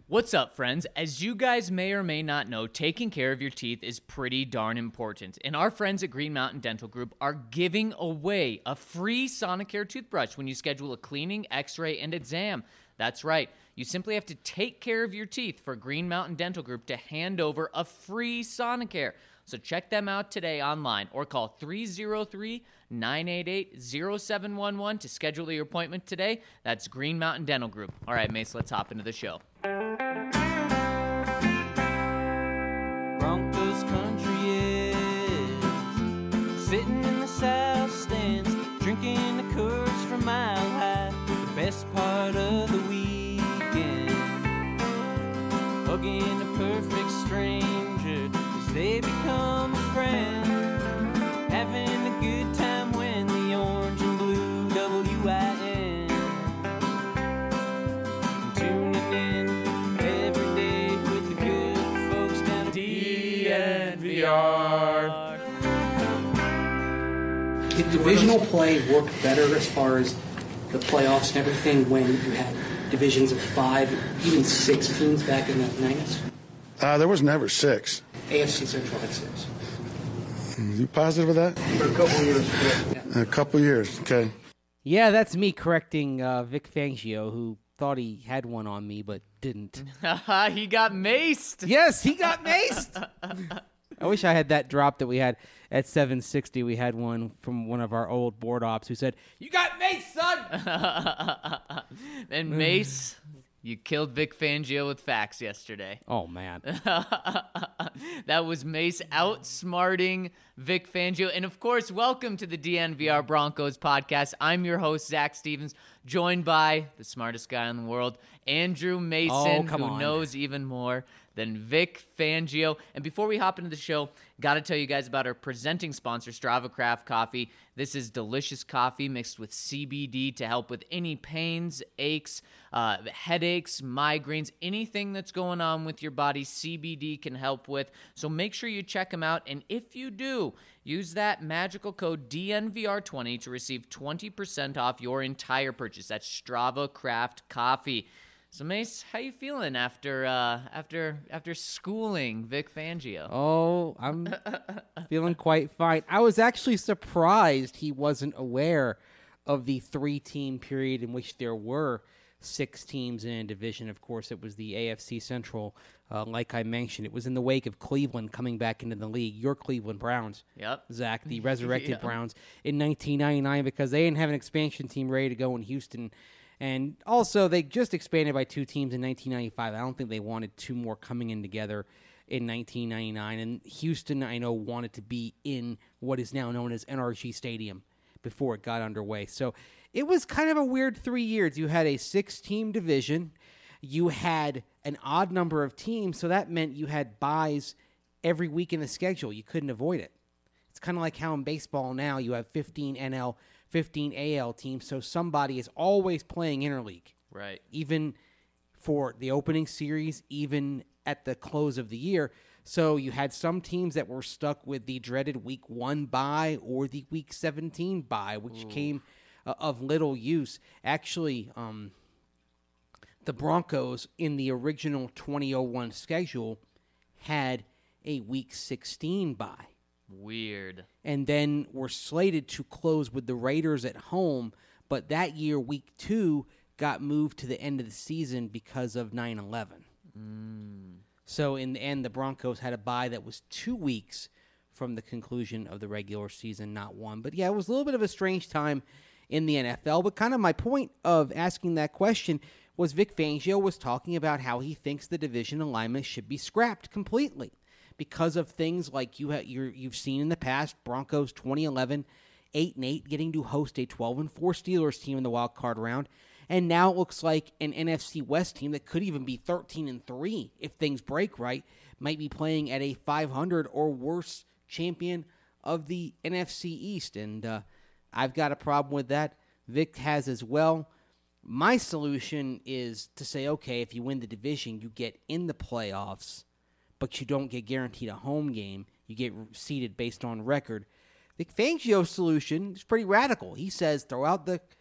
What's up, friends? As you guys may or may not know, taking care of your teeth is pretty darn important. And our friends at Green Mountain Dental Group are giving away a free Sonicare toothbrush when you schedule a cleaning, x-ray, and exam. That's right. You simply have to take care of your teeth for Green Mountain Dental Group to hand over a free Sonicare. So check them out today online or call 303-988-0711 to schedule your appointment today. That's Green Mountain Dental Group. All right, Mace, let's hop into the show. Broncos country is sitting in the south stands, drinking the Coors from Mile High. The best part of the weekend, hugging a perfect stranger as they become a friend, having a good time when the orange and blue WIN, tuning in every day with the good folks down at DNVR. Did divisional play work better as far as the playoffs and everything when you had divisions of 5, even 6 teams back in the 90s? There was never 6. AFC Central had 6. You positive of that? For a couple of years. Yeah. A couple years, okay. Yeah, that's me correcting Vic Fangio, who thought he had one on me but didn't. He got maced. Yes, he got maced. I wish I had that drop that we had at 760. We had one from one of our old board ops who said, "You got maced, son!" And Mace, you killed Vic Fangio with facts yesterday. Oh, man. That was Mace outsmarting Vic Fangio. And, of course, welcome to the DNVR Broncos podcast. I'm your host, Zach Stevens, joined by the smartest guy in the world, Andrew Mason, who knows even more than Vic Fangio. And before we hop into the show, got to tell you guys about our presenting sponsor, Strava Craft Coffee. This is delicious coffee mixed with CBD to help with any pains, aches, headaches, migraines, anything that's going on with your body, CBD can help with. So make sure you check them out. And if you do, use that magical code DNVR20 to receive 20% off your entire purchase. That's Strava Craft Coffee. So, Mace, how you feeling after schooling Vic Fangio? Oh, I'm feeling quite fine. I was actually surprised he wasn't aware of the 3-team period in which there were 6 teams in a division. Of course, it was the AFC Central. Like I mentioned, it was in the wake of Cleveland coming back into the league. Your Cleveland Browns, Yep. Zach, the resurrected Browns in 1999 because they didn't have an expansion team ready to go in Houston. And also, they just expanded by 2 teams in 1995. I don't think they wanted 2 more coming in together in 1999. And Houston, I know, wanted to be in what is now known as NRG Stadium before it got underway. So it was kind of a weird 3 years. You had a 6-team division. You had an odd number of teams, so that meant you had buys every week in the schedule. You couldn't avoid it. It's kind of like how in baseball now you have 15 NL, 15 AL teams, so somebody is always playing interleague. Right. Even for the opening series, even at the close of the year. So you had some teams that were stuck with the dreaded week 1 bye or the week 17 bye, which came of little use. Actually, the Broncos in the original 2001 schedule had a week 16 bye. Weird. And then were slated to close with the Raiders at home, but that year, week 2, got moved to the end of the season because of 9/11. So in the end, the Broncos had a bye that was 2 weeks from the conclusion of the regular season, not 1. But yeah, it was a little bit of a strange time in the NFL. But kind of my point of asking that question was Vic Fangio was talking about how he thinks the division alignment should be scrapped completely, because of things like you've seen in the past, Broncos 2011, 8-8, getting to host a 12-4 Steelers team in the wild card round, and now it looks like an NFC West team that could even be 13-3 if things break right, might be playing at a 500 or worse champion of the NFC East, and I've got a problem with that. Vic has as well. My solution is to say, okay, if you win the division, you get in the playoffs, but you don't get guaranteed a home game. You get seeded based on record. Vic Fangio's solution is pretty radical. He says throw out the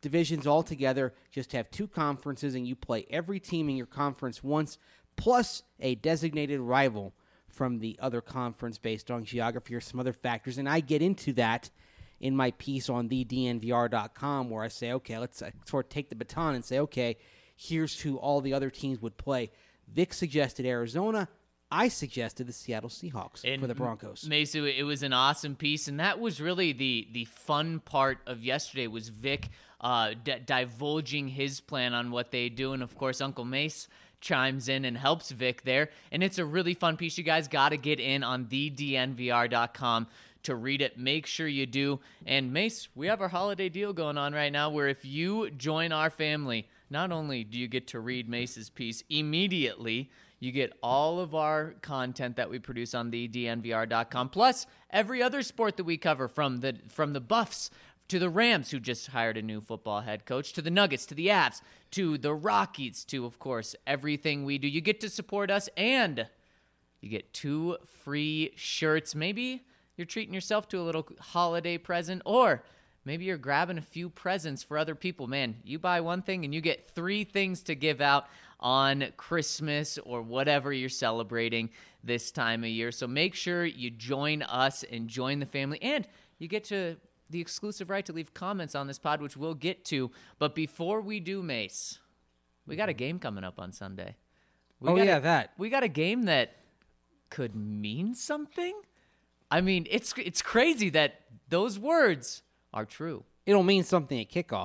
divisions all together. Just have 2 conferences, and you play every team in your conference once, plus a designated rival from the other conference based on geography or some other factors. And I get into that in my piece on thednvr.com, where I say, okay, let's sort of take the baton and say, okay, here's who all the other teams would play. Vic suggested Arizona. I suggested the Seattle Seahawks for the Broncos. Mace, it was an awesome piece, and that was really the fun part of yesterday was Vic divulging his plan on what they do, and of course Uncle Mace chimes in and helps Vic there, and it's a really fun piece. You guys got to get in on thednvr.com to read it. Make sure you do. And Mace, we have our holiday deal going on right now where if you join our family, not only do you get to read Mace's piece immediately, you get all of our content that we produce on thednvr.com, plus every other sport that we cover, from the Buffs to the Rams, who just hired a new football head coach, to the Nuggets, to the Avs, to the Rockies, to, of course, everything we do. You get to support us, and you get 2 free shirts. Maybe you're treating yourself to a little holiday present, or maybe you're grabbing a few presents for other people. Man, you buy one thing and you get 3 things to give out on Christmas or whatever you're celebrating this time of year. So make sure you join us and join the family, and you get to the exclusive right to leave comments on this pod, which we'll get to. But before we do, Mace, we got a game coming up on Sunday. We got a game that could mean something. I mean, it's crazy that those words are true. It'll mean something at kickoff.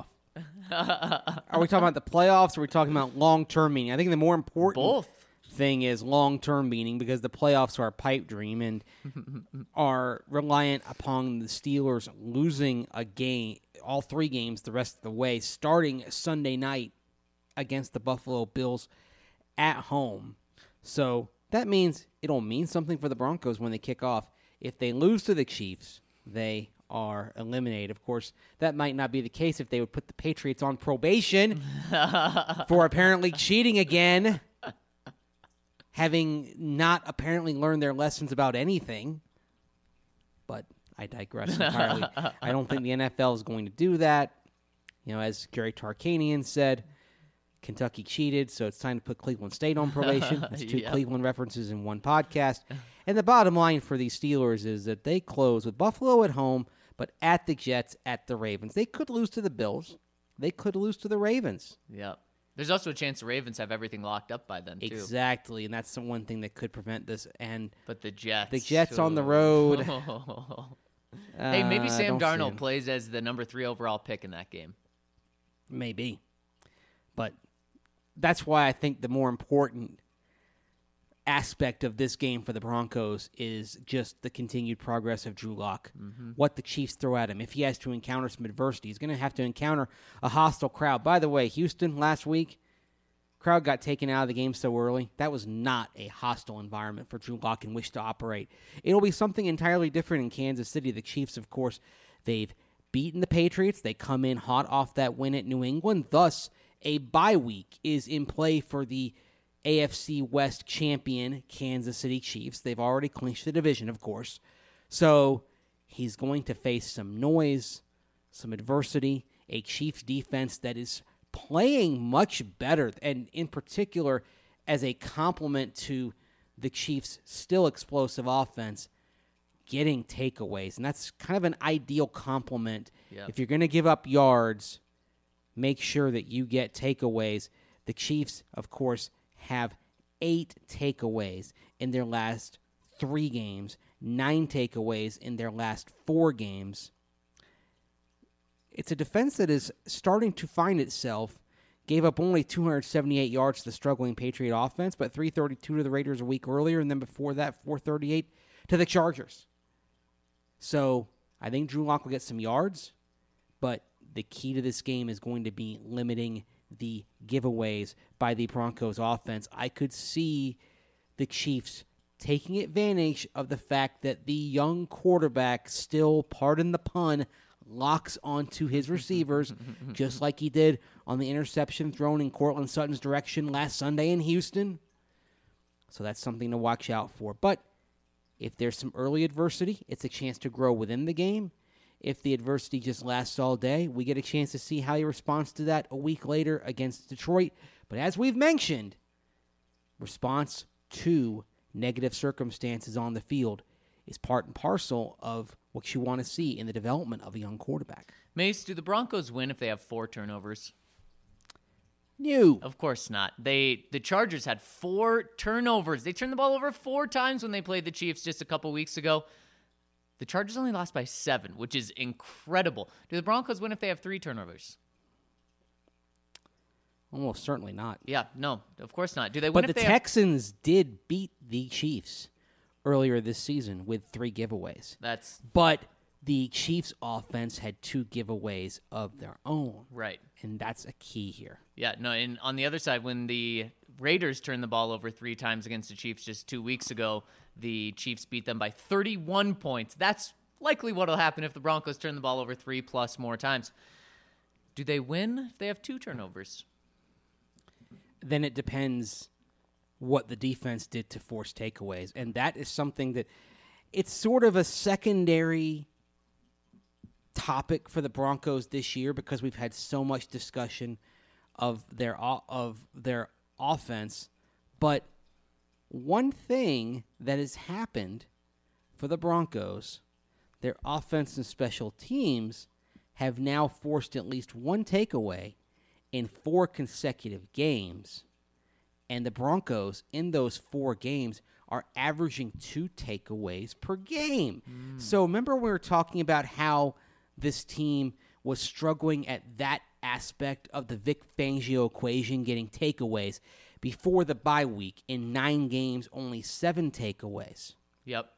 Are we talking about the playoffs, or are we talking about long-term meaning? I think the more important thing is long-term meaning, because the playoffs are a pipe dream and are reliant upon the Steelers losing a game, all 3 games the rest of the way, starting Sunday night against the Buffalo Bills at home. So that means it'll mean something for the Broncos when they kick off. If they lose to the Chiefs, they are eliminated. Of course, that might not be the case if they would put the Patriots on probation for apparently cheating again, having not apparently learned their lessons about anything. But I digress entirely. I don't think the NFL is going to do that. You know, as Gary Tarkanian said, Kentucky cheated, so it's time to put Cleveland State on probation. That's 2 Cleveland references in one podcast. And the bottom line for these Steelers is that they close with Buffalo at home, but at the Jets, at the Ravens. They could lose to the Bills. They could lose to the Ravens. Yep. There's also a chance the Ravens have everything locked up by then, too. Exactly, and that's the one thing that could prevent this. But the Jets. The Jets on the road. Hey, maybe Sam Darnold plays as the number 3 overall pick in that game. Maybe. But that's why I think the more important aspect of this game for the Broncos is just the continued progress of Drew Lock. Mm-hmm. What the Chiefs throw at him. If he has to encounter some adversity, he's going to have to encounter a hostile crowd. By the way, Houston last week, crowd got taken out of the game so early. That was not a hostile environment for Drew Lock in which to operate. It'll be something entirely different in Kansas City. The Chiefs, of course, they've beaten the Patriots. They come in hot off that win at New England. Thus, a bye week is in play for the AFC West champion Kansas City Chiefs. They've already clinched the division, of course. So he's going to face some noise, some adversity, a Chiefs defense that is playing much better, and in particular, as a complement to the Chiefs' still explosive offense, getting takeaways. And that's kind of an ideal complement. Yep. If you're going to give up yards, make sure that you get takeaways. The Chiefs, of course, have 8 takeaways in their last 3 games, 9 takeaways in their last 4 games. It's a defense that is starting to find itself. Gave up only 278 yards to the struggling Patriot offense, but 332 to the Raiders a week earlier, and then before that, 438 to the Chargers. So I think Drew Lock will get some yards, but the key to this game is going to be limiting the giveaways by the Broncos offense. I could see the Chiefs taking advantage of the fact that the young quarterback still, pardon the pun, locks onto his receivers, just like he did on the interception thrown in Cortland Sutton's direction last Sunday in Houston. So that's something to watch out for. But if there's some early adversity, it's a chance to grow within the game. if the adversity just lasts all day, we get a chance to see how he responds to that a week later against Detroit. But as we've mentioned, response to negative circumstances on the field is part and parcel of what you want to see in the development of a young quarterback. Mace, do the Broncos win if they have 4 turnovers? No. Of course not. The Chargers had 4 turnovers. They turned the ball over 4 times when they played the Chiefs just a couple weeks ago. The Chargers only lost by 7, which is incredible. Do the Broncos win if they have 3 turnovers? Almost certainly not. Yeah, no, of course not. Do they win But if the they Texans did beat the Chiefs earlier this season with 3 giveaways. But the Chiefs' offense had 2 giveaways of their own. Right. And that's a key here. Yeah, no, and on the other side, when the Raiders turned the ball over 3 times against the Chiefs just 2 weeks ago, the Chiefs beat them by 31 points. That's likely what will happen if the Broncos turn the ball over 3+ more times. Do they win if they have 2 turnovers? Then it depends what the defense did to force takeaways. And that is something that it's sort of a secondary topic for the Broncos this year because we've had so much discussion of their offense. But one thing that has happened for the Broncos, their offense and special teams have now forced at least 1 takeaway in 4 consecutive games. And the Broncos, in those 4 games, are averaging 2 takeaways per game. So remember we were talking about how this team was struggling at that aspect of the Vic Fangio equation, getting takeaways. Before the bye week, in 9 games, only 7 takeaways. Yep.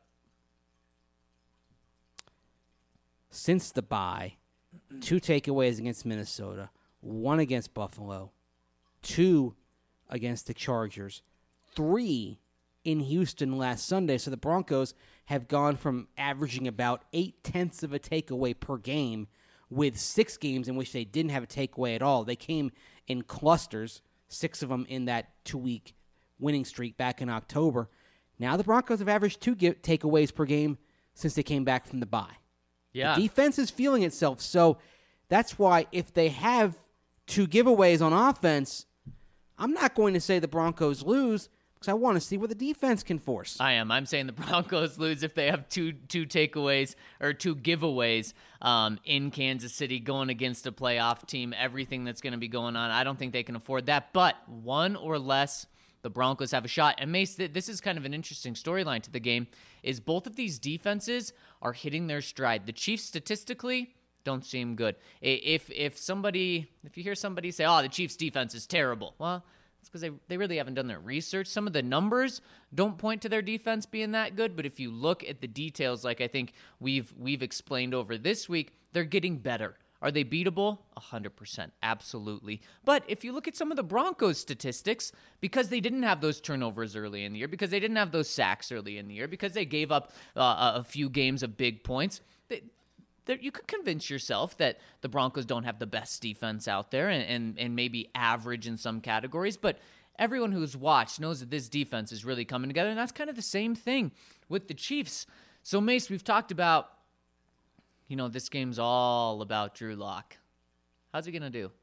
Since the bye, 2 takeaways against Minnesota, 1 against Buffalo, 2 against the Chargers, 3 in Houston last Sunday. So the Broncos have gone from averaging about 0.8 of a takeaway per game with 6 games in which they didn't have a takeaway at all. They came in clusters, 6 of them in that 2-week winning streak back in October. Now the Broncos have averaged 2 takeaways per game since they came back from the bye. Yeah. The defense is feeling itself. So that's why if they have 2 giveaways on offense, I'm not going to say the Broncos lose because I want to see what the defense can force. I am. I'm saying the Broncos lose if they have two takeaways or 2 giveaways in Kansas City going against a playoff team, everything that's going to be going on. I don't think they can afford that. But 1 or less, the Broncos have a shot. And Mace, this is kind of an interesting storyline to the game, is both of these defenses are hitting their stride. The Chiefs statistically don't seem good. If you hear somebody say, oh, the Chiefs defense is terrible, well, it's because they really haven't done their research. Some of the numbers don't point to their defense being that good, but if you look at the details, like I think we've explained over this week, they're getting better. Are they beatable? 100%, absolutely. But if you look at some of the Broncos statistics, because they didn't have those turnovers early in the year, because they didn't have those sacks early in the year, because they gave up a few games of big points, you could convince yourself that the Broncos don't have the best defense out there and maybe average in some categories, but everyone who's watched knows that this defense is really coming together, and that's kind of the same thing with the Chiefs. So, Mace, we've talked about, this game's all about Drew Lock. How's he going to do?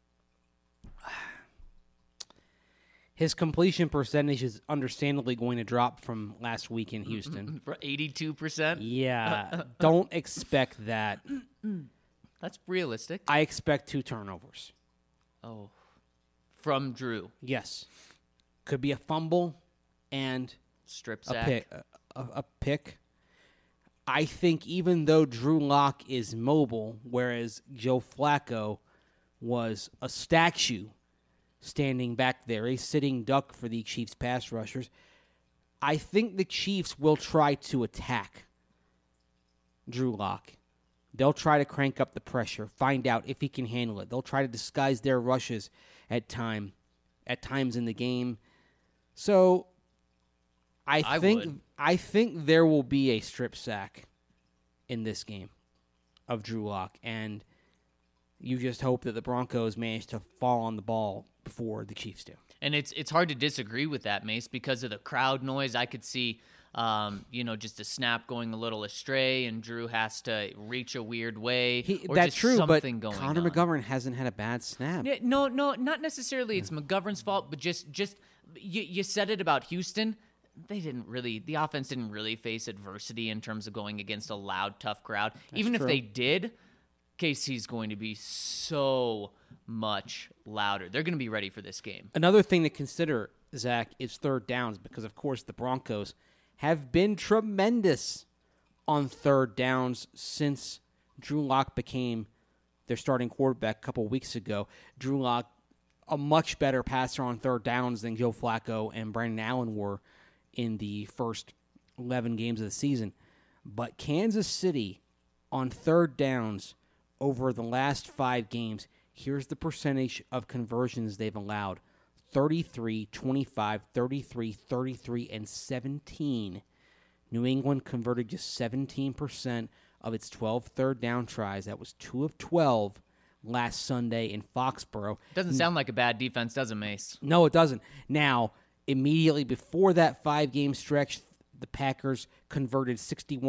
His completion percentage is understandably going to drop from last week in Houston. For 82%? Yeah, don't expect that. That's realistic. I expect 2 turnovers. Oh, from Drew. Yes. Could be a fumble and Strip a sack. pick. A pick. I think even though Drew Lock is mobile, whereas Joe Flacco was a statue standing back there, a sitting duck for the Chiefs pass rushers, I think the Chiefs will try to attack Drew Lock. They'll try to crank up the pressure, find out if he can handle it. They'll try to disguise their rushes at times in the game. So I think there will be a strip sack in this game of Drew Lock, and you just hope that the Broncos manage to fall on the ball before the Chiefs do. And it's hard to disagree with that, Mace, because of the crowd noise. I could see Just a snap going a little astray, and Drew has to reach a weird way, or that's just true, but something going Connor on. McGovern hasn't had a bad snap. Yeah, no, not necessarily. It's McGovern's fault, but just you said it about Houston. The offense didn't really face adversity in terms of going against a loud, tough crowd. Even if true. they did, KC's going to be so much louder. They're going to be ready for this game. Another thing to consider, Zach, is third downs because, of course, the Broncos have been tremendous on third downs since Drew Lock became their starting quarterback a couple weeks ago. Drew Lock, a much better passer on third downs than Joe Flacco and Brandon Allen were in the first 11 games of the season. But Kansas City on third downs over the last 5 games, here's the percentage of conversions they've allowed. 33, 25, 33, 33, and 17. New England converted just 17% of its 12 third down tries. That was 2 of 12 last Sunday in Foxborough. Doesn't sound like a bad defense, does it, Mace? No, it doesn't. Now, immediately before that 5-game stretch, the Packers converted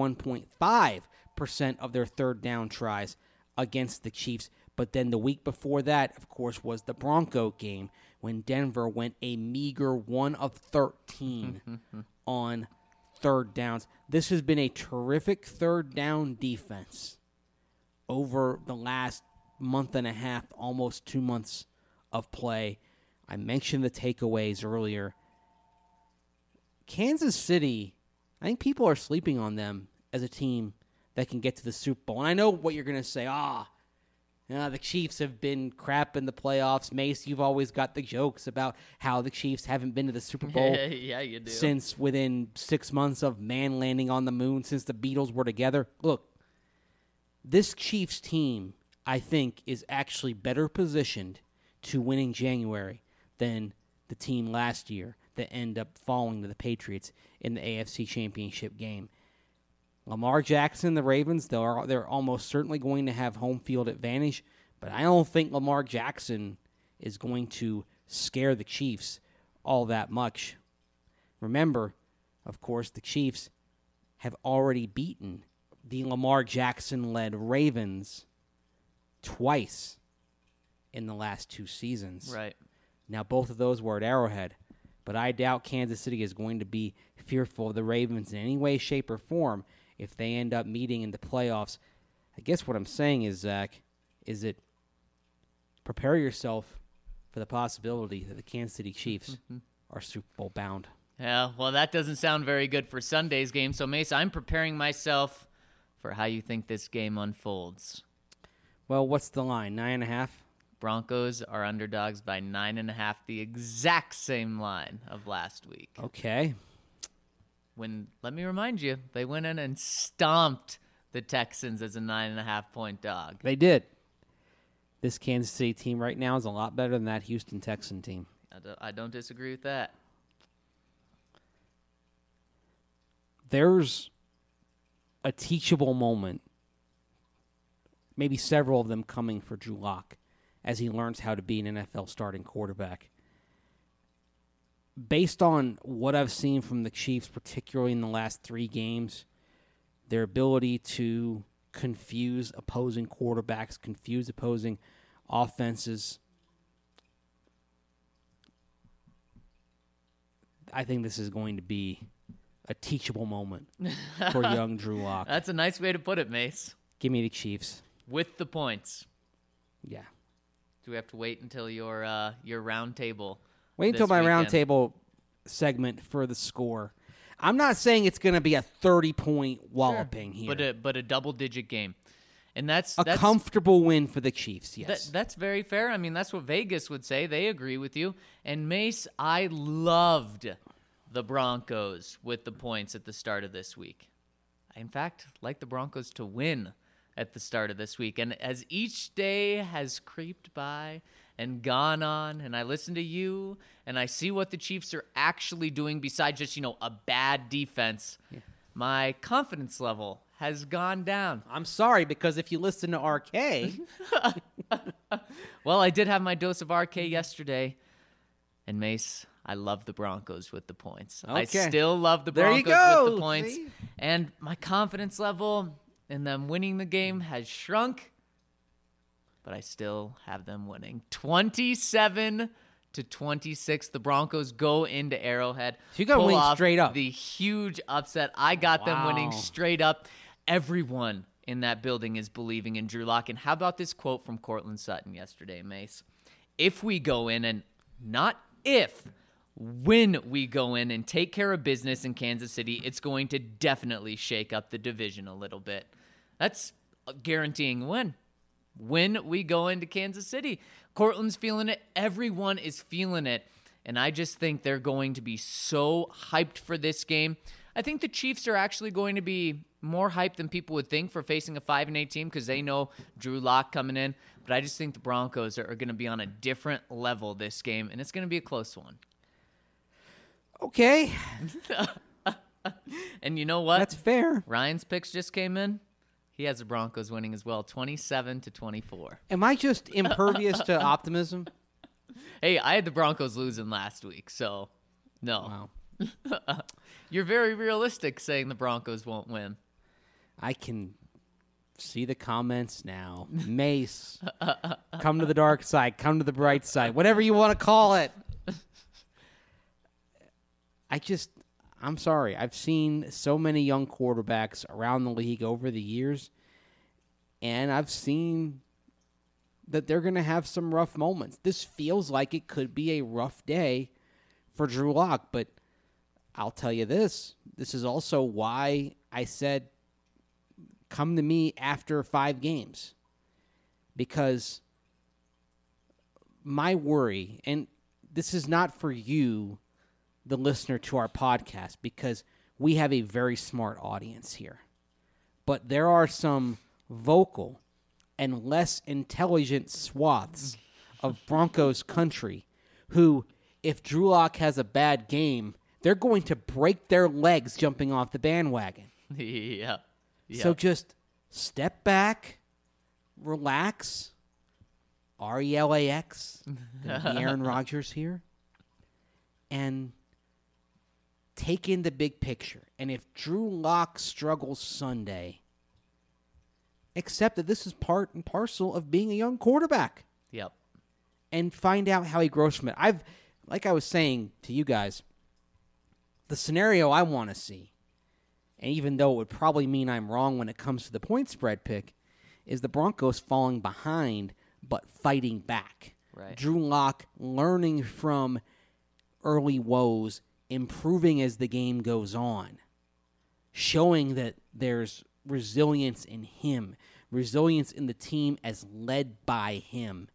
61.5% of their third down tries against the Chiefs. But then the week before that, of course, was the Bronco game when Denver went a meager 1 of 13 on third downs. This has been a terrific third down defense over the last month and a half, almost 2 months of play. I mentioned the takeaways earlier. Kansas City, I think people are sleeping on them as a team that can get to the Super Bowl. And I know what you're going to say. The Chiefs have been crap in the playoffs. Mace, you've always got the jokes about how the Chiefs haven't been to the Super Bowl Yeah, you do. since within 6 months of man landing on the moon, since the Beatles were together. Look, this Chiefs team, I think, is actually better positioned to win in January than the team last year that ended up falling to the Patriots in the AFC Championship game. Lamar Jackson, the Ravens, they're almost certainly going to have home field advantage, but I don't think Lamar Jackson is going to scare the Chiefs all that much. Remember, of course, the Chiefs have already beaten the Lamar Jackson-led Ravens twice in the last 2 seasons. Right. Now, both of those were at Arrowhead, but I doubt Kansas City is going to be fearful of the Ravens in any way, shape, or form if they end up meeting in the playoffs. I guess what I'm saying is, Zach, is that prepare yourself for the possibility that the Kansas City Chiefs are Super Bowl bound. Yeah, well, that doesn't sound very good for Sunday's game. So, Mace, I'm preparing myself for how you think this game unfolds. Well, what's the line, 9.5? Broncos are underdogs by 9.5, the exact same line of last week. Okay. Let me remind you, they went in and stomped the Texans as a 9.5-point dog. They did. This Kansas City team right now is a lot better than that Houston Texan team. I don't disagree with that. There's a teachable moment, maybe several of them coming for Drew Lock as he learns how to be an NFL starting quarterback. Based on what I've seen from the Chiefs, particularly in the last 3 games, their ability to confuse opposing quarterbacks, confuse opposing offenses, I think this is going to be a teachable moment for young Drew Lock. That's a nice way to put it, Mace. Give me the Chiefs. With the points. Yeah. Do we have to wait until your round table? Wait until this my weekend? roundtable segment for the score. I'm not saying it's going to be a 30-point walloping here. But a double-digit game. And that's comfortable win for the Chiefs, yes. That's very fair. I mean, that's what Vegas would say. They agree with you. And Mace, I loved the Broncos with the points at the start of this week. I, in fact, like the Broncos to win at the start of this week. And as each day has creeped by and gone on, and I listen to you, and I see what the Chiefs are actually doing besides just, a bad defense, my confidence level has gone down. I'm sorry, because if you listen to RK... Well, I did have my dose of RK yesterday, and Mace, I love the Broncos with the points. I Okay. still love the There you Broncos with go. the points. See? And my confidence level in them winning the game has shrunk, but I still have them winning. 27-26. The Broncos go into Arrowhead. So you gotta pull win off straight up. the huge upset. I got them winning Wow. straight up. Everyone in that building is believing in Drew Lock. And how about this quote from Cortland Sutton yesterday, Mace? If we go in, and not if, when we go in and take care of business in Kansas City, it's going to definitely shake up the division a little bit. That's guaranteeing a win. When we go into Kansas City, Cortland's feeling it. Everyone is feeling it. And I just think they're going to be so hyped for this game. I think the Chiefs are actually going to be more hyped than people would think for facing a 5-8 team because they know Drew Lock coming in. But I just think the Broncos are going to be on a different level this game, and it's going to be a close one. Okay, And you know what? that's fair. Ryan's picks just came in. He has the Broncos winning as well, 27-24. Am I just impervious to optimism? Hey, I had the Broncos losing last week, so no. Wow. You're very realistic saying the Broncos won't win. I can see the comments now. Mace, come to the dark side, come to the bright side, whatever you want to call it. I'm sorry. I've seen so many young quarterbacks around the league over the years, and I've seen that they're going to have some rough moments. This feels like it could be a rough day for Drew Lock, but I'll tell you this. This is also why I said come to me after 5 games. Because my worry, and this is not for you, the listener to our podcast, because we have a very smart audience here. But there are some vocal and less intelligent swaths of Broncos country who, if Drew Lock has a bad game, they're going to break their legs jumping off the bandwagon. Yeah. So just step back, relax, RELAX, the Aaron Rodgers here, and take in the big picture. And if Drew Lock struggles Sunday, accept that this is part and parcel of being a young quarterback Yep. and find out how he grows from it. Like I was saying to you guys, the scenario I want to see, and even though it would probably mean I'm wrong when it comes to the point spread pick, is the Broncos falling behind but fighting back. Right. Drew Lock learning from early woes, improving as the game goes on, showing that there's resilience in him, resilience in the team as led by him.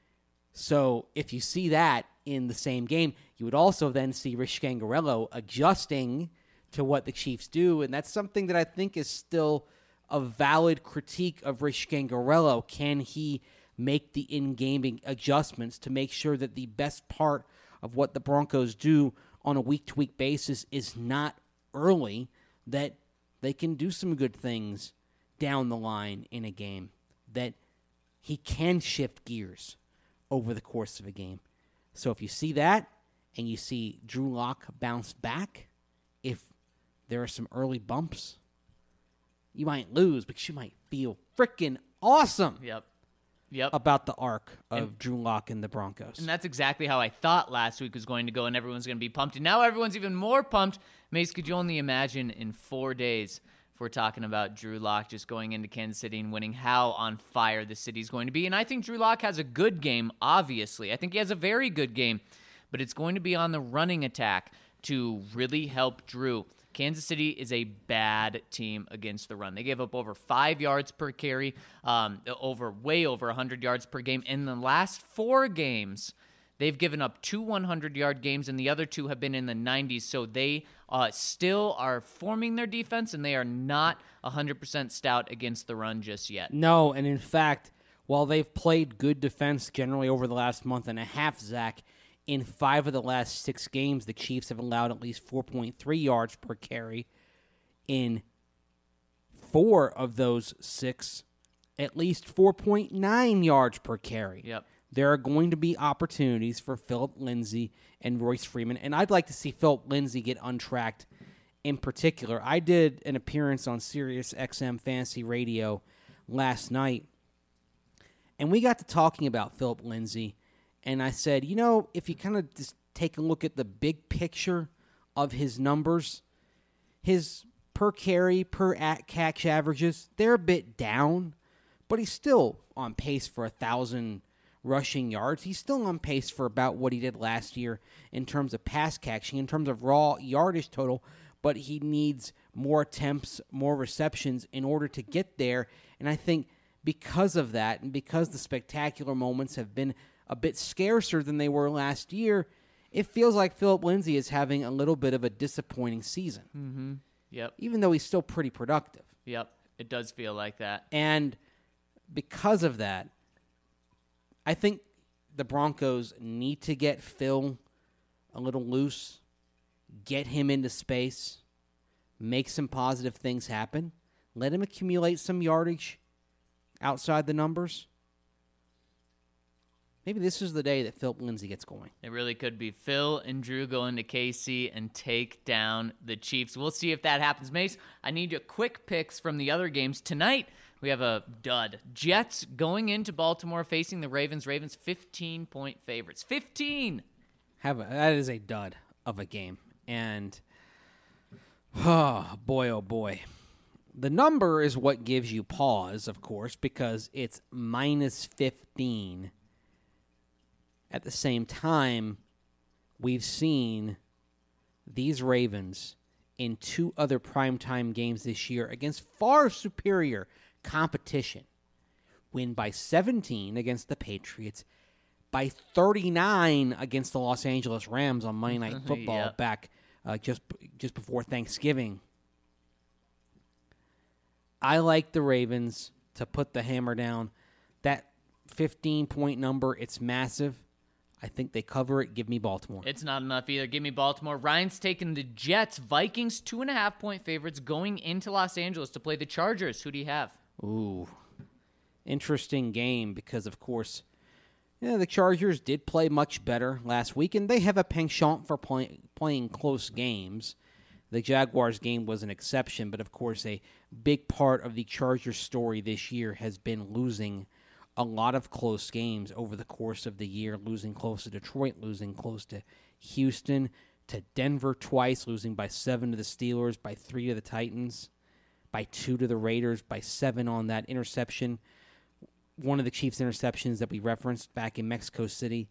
So if you see that in the same game, you would also then see Rich Scangarello adjusting to what the Chiefs do, and that's something that I think is still a valid critique of Rich Scangarello. Can he make the in-game adjustments to make sure that the best part of what the Broncos do on a week-to-week basis is not early, that they can do some good things down the line in a game, that he can shift gears over the course of a game. So if you see that and you see Drew Lock bounce back, if there are some early bumps, you might lose, but you might feel freaking awesome Yep. about the arc of Drew Lock and the Broncos. And that's exactly how I thought last week was going to go, and everyone's going to be pumped. And now everyone's even more pumped. Mace, could you only imagine in 4 days, if we're talking about Drew Lock just going into Kansas City and winning, how on fire the city's going to be? And I think Drew Lock has a good game, obviously. I think he has a very good game, but it's going to be on the running attack to really help Drew. Kansas City is a bad team against the run. They gave up over 5 yards per carry, way over 100 yards per game. In the last 4 games, they've given up 2 100-yard games, and the other 2 have been in the 90s. So they still are forming their defense, and they are not 100% stout against the run just yet. No, and in fact, while they've played good defense generally over the last month and a half, Zach, in 5 of the last 6 games, the Chiefs have allowed at least 4.3 yards per carry. In 4 of those 6, at least 4.9 yards per carry. Yep. there are going to be opportunities for Philip Lindsay and Royce Freeman, and I'd like to see Philip Lindsay get untracked in particular. I did an appearance on Sirius XM Fantasy Radio last night, and we got to talking about Philip Lindsay, and I said, if you kind of just take a look at the big picture of his numbers, his per carry, per catch averages, they're a bit down, but he's still on pace for 1,000 rushing yards. He's still on pace for about what he did last year in terms of pass catching, in terms of raw yardage total, but he needs more attempts, more receptions in order to get there. And I think because of that, and because the spectacular moments have been a bit scarcer than they were last year, it feels like Philip Lindsay is having a little bit of a disappointing season. Mm-hmm. Yep. Even though he's still pretty productive. Yep. It does feel like that. And because of that, I think the Broncos need to get Phil a little loose, get him into space, make some positive things happen, let him accumulate some yardage outside the numbers. Maybe this is the day that Philip Lindsay gets going. It really could be. Phil and Drew go into KC and take down the Chiefs. We'll see if that happens. Mace, I need your quick picks from the other games. Tonight, we have a dud. Jets going into Baltimore facing the Ravens. Ravens 15-point favorites. 15! That is a dud of a game. And, oh boy. The number is what gives you pause, of course, because it's minus 15. At the same time, we've seen these Ravens in two other primetime games this year against far superior competition win by 17 against the Patriots, by 39 against the Los Angeles Rams on Monday Night Football back just before Thanksgiving. I like the Ravens to put the hammer down. That 15-point number, it's massive. I think they cover it. Give me Baltimore. It's not enough either. Give me Baltimore. Ryan's taking the Jets. Vikings 2.5-point favorites going into Los Angeles to play the Chargers. Who do you have? Ooh, interesting game because, of course, the Chargers did play much better last week, and they have a penchant for playing close games. The Jaguars game was an exception, but, of course, a big part of the Chargers story this year has been losing a lot of close games over the course of the year, losing close to Detroit, losing close to Houston, to Denver twice, losing by 7 to the Steelers, by 3 to the Titans, by 2 to the Raiders, by 7 on that interception. One of the Chiefs' interceptions that we referenced back in Mexico City.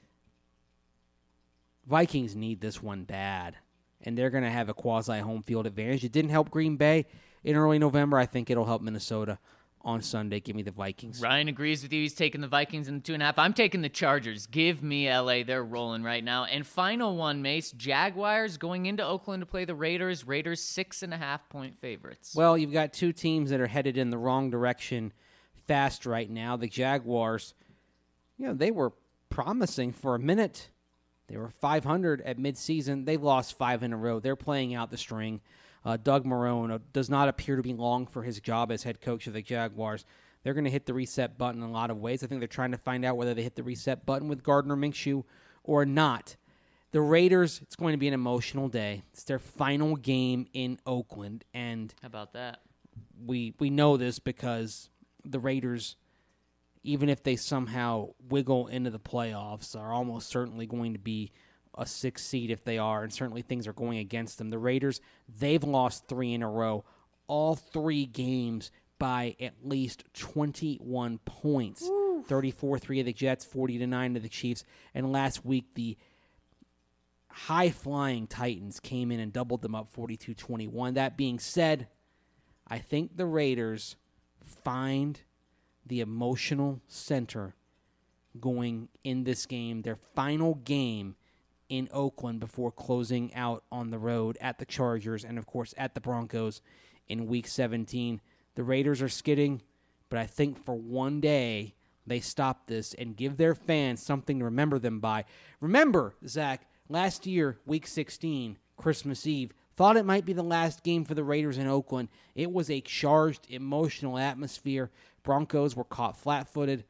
Vikings need this one bad, and they're going to have a quasi-home field advantage. It didn't help Green Bay in early November. I think it'll help Minnesota on Sunday. Give me the Vikings. Ryan agrees with you. He's taking the Vikings in the 2.5. I'm taking the Chargers. Give me LA. They're rolling right now. And final one, Mace. Jaguars going into Oakland to play the Raiders. Raiders 6.5-point favorites. Well, you've got two teams that are headed in the wrong direction fast right now. The Jaguars, they were promising for a minute. They were 500 at midseason. They lost 5 in a row. They're playing out the string. Doug Marrone does not appear to be long for his job as head coach of the Jaguars. They're going to hit the reset button in a lot of ways. I think they're trying to find out whether they hit the reset button with Gardner Minshew or not. The Raiders, it's going to be an emotional day. It's their final game in Oakland. And how about that? We know this because the Raiders, even if they somehow wiggle into the playoffs, are almost certainly going to be a 6th seed if they are, and certainly things are going against them. The Raiders, they've lost 3 in a row, all 3 games by at least 21 points. 34-3 of the Jets, 40-9 of the Chiefs, and last week the high-flying Titans came in and doubled them up 42-21. That being said, I think the Raiders find the emotional center going in this game, their final game in Oakland before closing out on the road at the Chargers and, of course, at the Broncos in Week 17. The Raiders are skidding, but I think for one day they stop this and give their fans something to remember them by. Remember, Zach, last year, Week 16, Christmas Eve, thought it might be the last game for the Raiders in Oakland. It was a charged, emotional atmosphere. Broncos were caught flat-footed.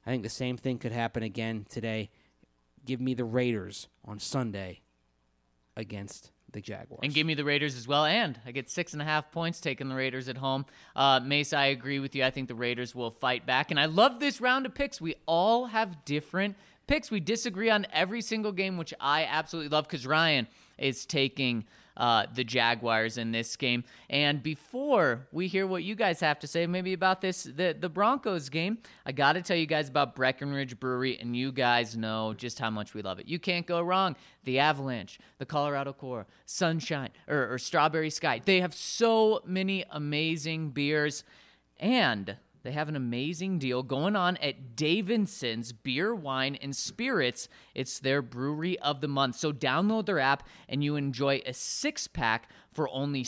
I think the same thing could happen again today. Give me the Raiders on Sunday against the Jaguars. And give me the Raiders as well. And I get 6.5 points taking the Raiders at home. Mace, I agree with you. I think the Raiders will fight back. And I love this round of picks. We all have different picks. We disagree on every single game, which I absolutely love because Ryan is taking the Jaguars in this game. And before we hear what you guys have to say maybe about the Broncos game, I got to tell you guys about Breckenridge Brewery, and you guys know just how much we love it. You can't go wrong. The Avalanche, the Colorado Core, Sunshine, or Strawberry Sky. They have so many amazing beers, and they have an amazing deal going on at Davidson's Beer, Wine, and Spirits. It's their brewery of the month. So download their app and you enjoy a 6-pack for only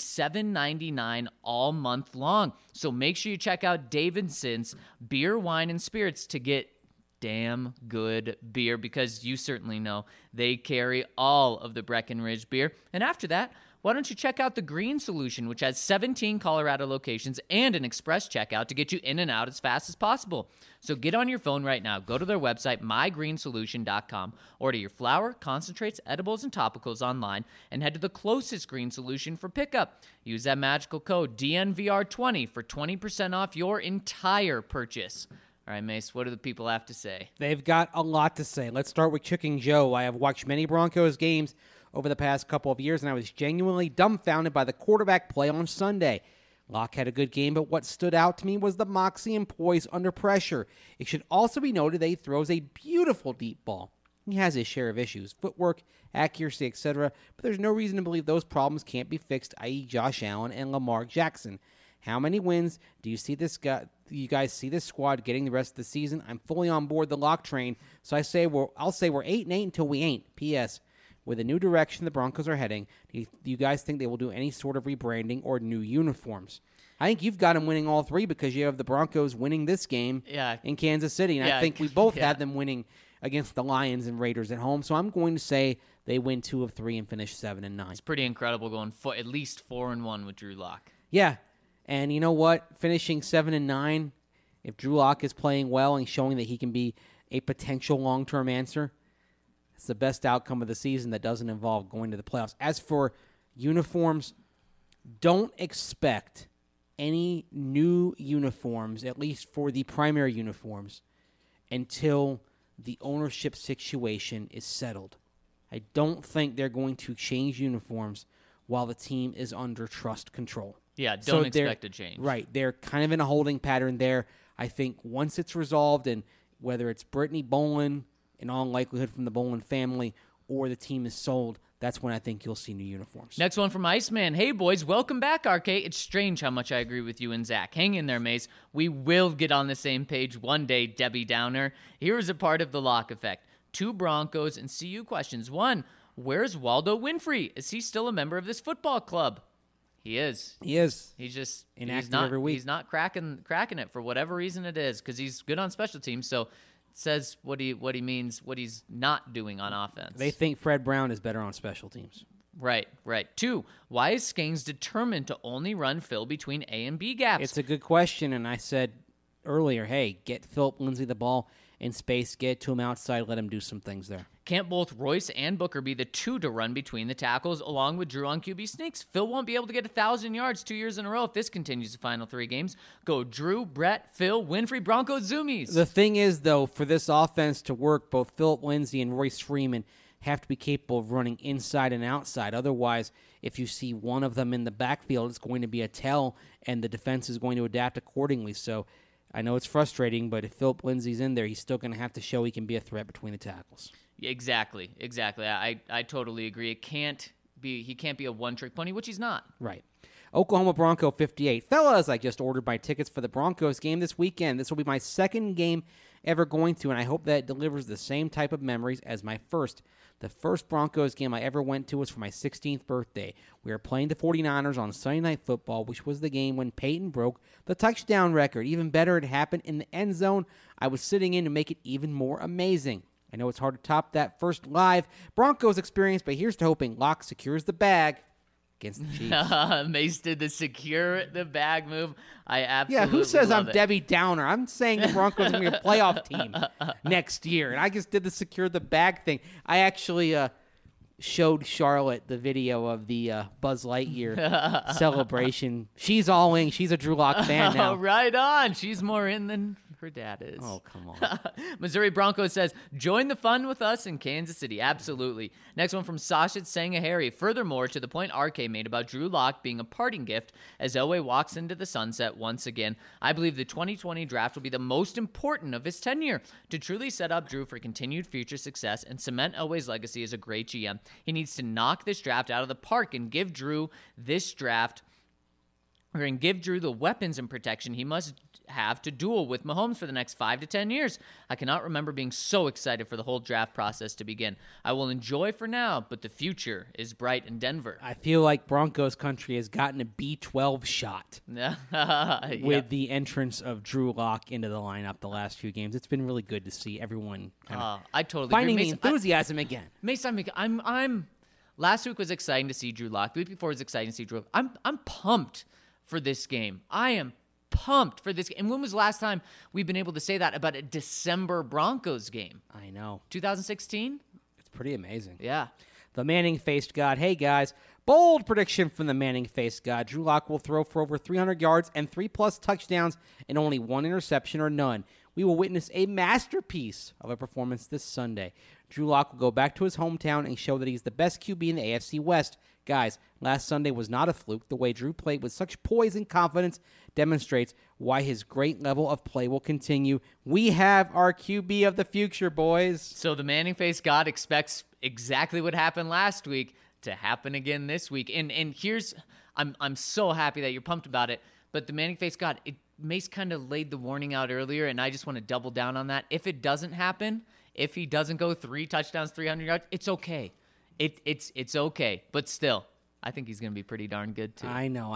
$7.99 all month long. So make sure you check out Davidson's Beer, Wine, and Spirits to get damn good beer, because you certainly know they carry all of the Breckenridge beer. And after that, why don't you check out the Green Solution, which has 17 Colorado locations and an express checkout to get you in and out as fast as possible. So get on your phone right now. Go to their website, mygreensolution.com. Order your flour, concentrates, edibles, and topicals online, and head to the closest Green Solution for pickup. Use that magical code DNVR20 for 20% off your entire purchase. All right, Mace, what do the people have to say? They've got a lot to say. Let's start with Chicken Joe. I have watched many Broncos games over the past couple of years, and I was genuinely dumbfounded by the quarterback play on Sunday. Locke had a good game, but what stood out to me was the moxie and poise under pressure. It should also be noted that he throws a beautiful deep ball. He has his share of issues, footwork, accuracy, etc., but there's no reason to believe those problems can't be fixed, i.e. Josh Allen and Lamar Jackson. How many wins do you see this guy? You guys see this squad getting the rest of the season? I'm fully on board the Locke train, so I'll say we're 8-8 until we ain't. P.S. With the new direction the Broncos are heading, do you guys think they will do any sort of rebranding or new uniforms? I think you've got them winning all three because you have the Broncos winning this game in Kansas City, and I think we both had them winning against the Lions and Raiders at home. So I'm going to say they win 2 of 3 and finish 7-9. It's pretty incredible going at least 4-1 with Drew Lock. Yeah, and you know what? Finishing 7-9, if Drew Lock is playing well and showing that he can be a potential long-term answer, it's the best outcome of the season that doesn't involve going to the playoffs. As for uniforms, don't expect any new uniforms, at least for the primary uniforms, until the ownership situation is settled. I don't think they're going to change uniforms while the team is under trust control. Yeah, don't expect a change. Right. They're kind of in a holding pattern there. I think once it's resolved, and whether it's Brittany Bolin, in all likelihood from the Bolin family, or the team is sold, that's when I think you'll see new uniforms. Next one from Iceman. Hey, boys, welcome back, RK. It's strange how much I agree with you and Zach. Hang in there, Mace. We will get on the same page one day, Debbie Downer. Here is a part of the Lock effect. 2 Broncos and CU questions. 1, where's Waldo Winfrey? Is he still a member of this football club? He is. He is. He's just inactive every week. He's not cracking it for whatever reason it is, because he's good on special teams. So says what he means, what he's not doing on offense. They think Fred Brown is better on special teams. Right. 2, why is Skangs determined to only run Phil between A and B gaps? It's a good question, and I said earlier, hey, get Philip Lindsay the ball in space, get to him outside, let him do some things there. Can't both Royce and Booker be the 2 to run between the tackles along with Drew on QB sneaks? Phil won't be able to get 1,000 yards 2 years in a row if this continues the final 3 games. Go Drew, Brett, Phil, Winfrey, Broncos, Zoomies. The thing is, though, for this offense to work, both Philip Lindsay and Royce Freeman have to be capable of running inside and outside. Otherwise, if you see one of them in the backfield, it's going to be a tell, and the defense is going to adapt accordingly. So I know it's frustrating, but if Philip Lindsay's in there, he's still going to have to show he can be a threat between the tackles. Exactly. I totally agree. He can't be a one-trick pony, which he's not. Right. Oklahoma Bronco 58. Fellas, I just ordered my tickets for the Broncos game this weekend. This will be my second game ever going to, and I hope that it delivers the same type of memories as my first. The first Broncos game I ever went to was for my 16th birthday. We were playing the 49ers on Sunday Night Football, which was the game when Peyton broke the touchdown record. Even better, it happened in the end zone. I was sitting in to make it even more amazing. I know it's hard to top that first live Broncos experience, but here's to hoping Locke secures the bag against the Chiefs. Mace did the secure the bag move. I absolutely Yeah, who says love I'm it. Debbie Downer? I'm saying the Broncos are going to be a playoff team next year, and I just did the secure the bag thing. I actually showed Charlotte the video of the Buzz Lightyear celebration. She's all in. She's a Drew Lock fan now. Oh, right on. She's more in than her dad is. Oh, come on. Missouri Broncos says, join the fun with us in Kansas City. Absolutely. Next one from Sasha Sangahari. Furthermore, to the point RK made about Drew Lock being a parting gift as Elway walks into the sunset once again, I believe the 2020 draft will be the most important of his tenure. To truly set up Drew for continued future success and cement Elway's legacy as a great GM, he needs to knock this draft out of the park and give Drew the weapons and protection he must have to duel with Mahomes for the next 5 to 10 years. I cannot remember being so excited for the whole draft process to begin. I will enjoy for now, but the future is bright in Denver. I feel like Broncos country has gotten a B12 shot with the entrance of Drew Lock into the lineup the last few games. It's been really good to see everyone kind of I totally finding agree. the enthusiasm again. I'm last week was exciting to see Drew Lock. The week before was exciting to see Drew. I'm pumped for this game. I am pumped for this game. And when was the last time we've been able to say that about a December Broncos game? I know. 2016? It's pretty amazing. Yeah. The Manning-faced God. Hey, guys. Bold prediction from the Manning-faced God. Drew Lock will throw for over 300 yards and 3+ touchdowns and only 1 interception or none. We will witness a masterpiece of a performance this Sunday. Drew Lock will go back to his hometown and show that he's the best QB in the AFC West. Guys, last Sunday was not a fluke. The way Drew played with such poise and confidence demonstrates why his great level of play will continue. We have our QB of the future, boys. So the Manning-faced God expects exactly what happened last week to happen again this week. And here's, I'm so happy that you're pumped about it, but the Manning-faced God, Mace kind of laid the warning out earlier, and I just want to double down on that. If it doesn't happen, if he doesn't go 3 touchdowns, 300 yards, it's okay. It's okay, but still, I think he's going to be pretty darn good too. I know.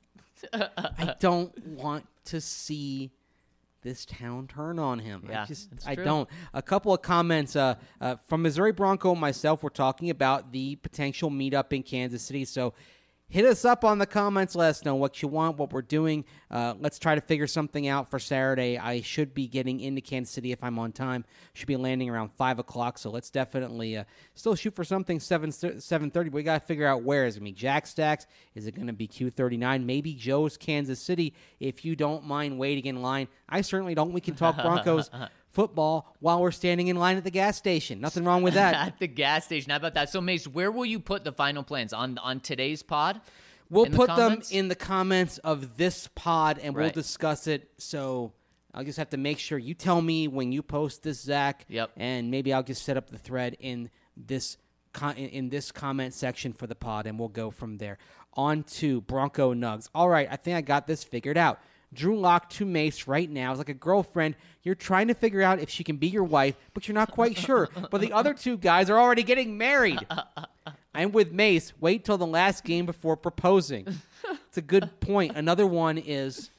I don't want to see this town turn on him. Yeah, I don't. A couple of comments from Missouri Bronco and myself. We're talking about the potential meetup in Kansas City. So hit us up on the comments. Let us know what you want, what we're doing. Let's try to figure something out for Saturday. I should be getting into Kansas City if I'm on time. Should be landing around 5 o'clock, so let's definitely still shoot for something 7:30, but we got to figure out where. Is it going to be Jack Stacks? Is it going to be Q39? Maybe Joe's Kansas City, if you don't mind waiting in line. I certainly don't. We can talk Broncos football while we're standing in line at the gas station. Nothing wrong with that. At the gas station. How about that? So, Mace, where will you put the final plans? On today's pod? We'll In the put them comments? in the comments of this pod, and we'll Right. discuss it. So I'll just have to make sure you tell me when you post this, Zach. Yep. And maybe I'll just set up the thread in this comment section for the pod, and we'll go from there. On to Bronco Nugs. All right, I think I got this figured out. Drew Lock to Mace right now is like a girlfriend. You're trying to figure out if she can be your wife, but you're not quite sure. But the other two guys are already getting married. I'm with Mace. Wait till the last game before proposing. It's a good point. Another one is,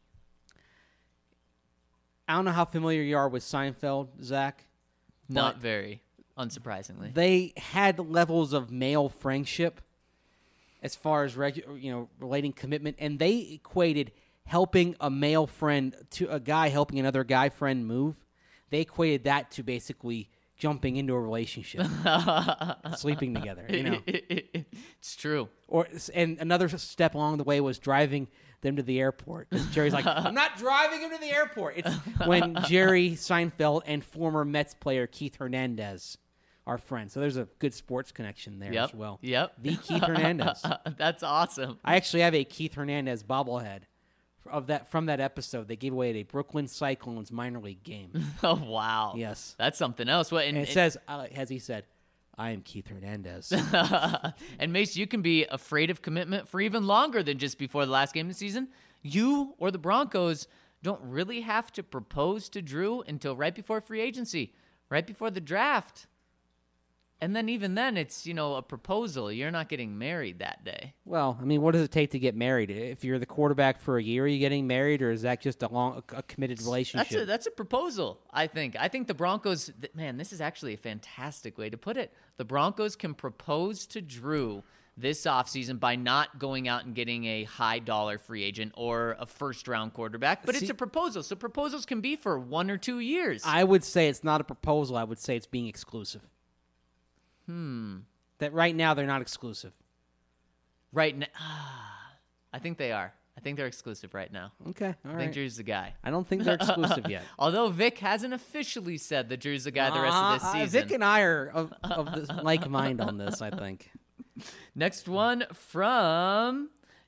I don't know how familiar you are with Seinfeld, Zach. Not very, unsurprisingly. They had levels of male friendship as far as relating commitment, and they equated helping a male friend to a guy helping another guy friend move. They equated that to basically jumping into a relationship, sleeping together. It's true. And another step along the way was driving them to the airport. 'Cause Jerry's like, I'm not driving him to the airport. It's when Jerry Seinfeld and former Mets player Keith Hernandez are friends. So there's a good sports connection there as well. Yep. The Keith Hernandez. That's awesome. I actually have a Keith Hernandez bobblehead from that episode. They gave away at a Brooklyn Cyclones minor league game. Oh, wow. Yes. That's something else. What, And it says, as he said, I am Keith Hernandez. And Mace, you can be afraid of commitment for even longer than just before the last game of the season. You or the Broncos don't really have to propose to Drew until right before free agency, right before the draft. And then even then, it's, a proposal. You're not getting married that day. Well, I mean, what does it take to get married? If you're the quarterback for a year, are you getting married, or is that just a committed relationship? That's a proposal, I think. I think the Broncos, man, this is actually a fantastic way to put it. The Broncos can propose to Drew this offseason by not going out and getting a high-dollar free agent or a first-round quarterback. But it's a proposal, so proposals can be for 1 or 2 years. I would say it's not a proposal. I would say it's being exclusive. That right now they're not exclusive. Right now, I think they are. I think they're exclusive right now. Okay, all I think right. Drew's the guy. I don't think they're exclusive yet. Although Vic hasn't officially said that Drew's the guy the rest of this season. Vic and I are of this like mind on this, I think. Next one from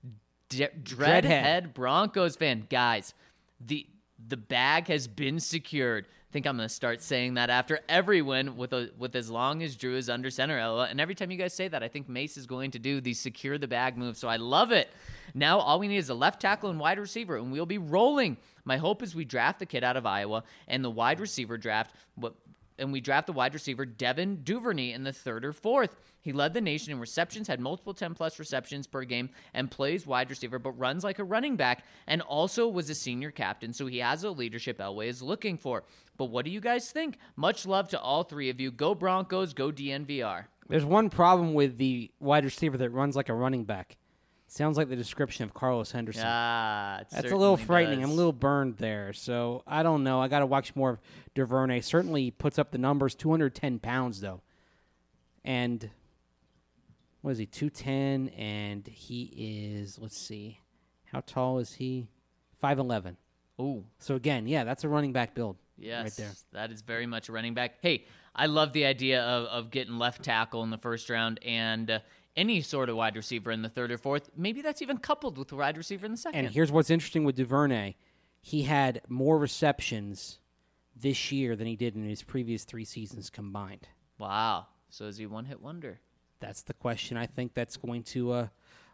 Dreadhead Broncos fan. Guys, the bag has been secured. I think I'm going to start saying that after every win with as long as Drew is under center. And every time you guys say that, I think Mace is going to do the secure the bag move. So I love it. Now all we need is a left tackle and wide receiver, and we'll be rolling. My hope is we draft the kid out of Iowa and the wide receiver draft. And we draft the wide receiver Devin Duvernay in the 3rd or 4th. He led the nation in receptions, had multiple 10-plus receptions per game, and plays wide receiver, but runs like a running back, and also was a senior captain, so he has a leadership Elway is looking for. But what do you guys think? Much love to all three of you. Go Broncos, go DNVR. There's one problem with the wide receiver that runs like a running back. Sounds like the description of Carlos Henderson. That's a little frightening. Does. I'm a little burned there. So I don't know. I got to watch more of Duvernay. Certainly puts up the numbers. 210 pounds, though. And what is he? 210. And he is, let's see. How tall is he? 5'11". Ooh. So again, yeah, that's a running back build. Yes, right there. That is very much a running back. Hey, I love the idea of getting left tackle in the first round and any sort of wide receiver in the 3rd or 4th. Maybe that's even coupled with the wide receiver in the 2nd. And here's what's interesting with Duvernay. He had more receptions this year than he did in his previous 3 seasons combined. Wow. So is he one-hit wonder? That's the question. I think that's going to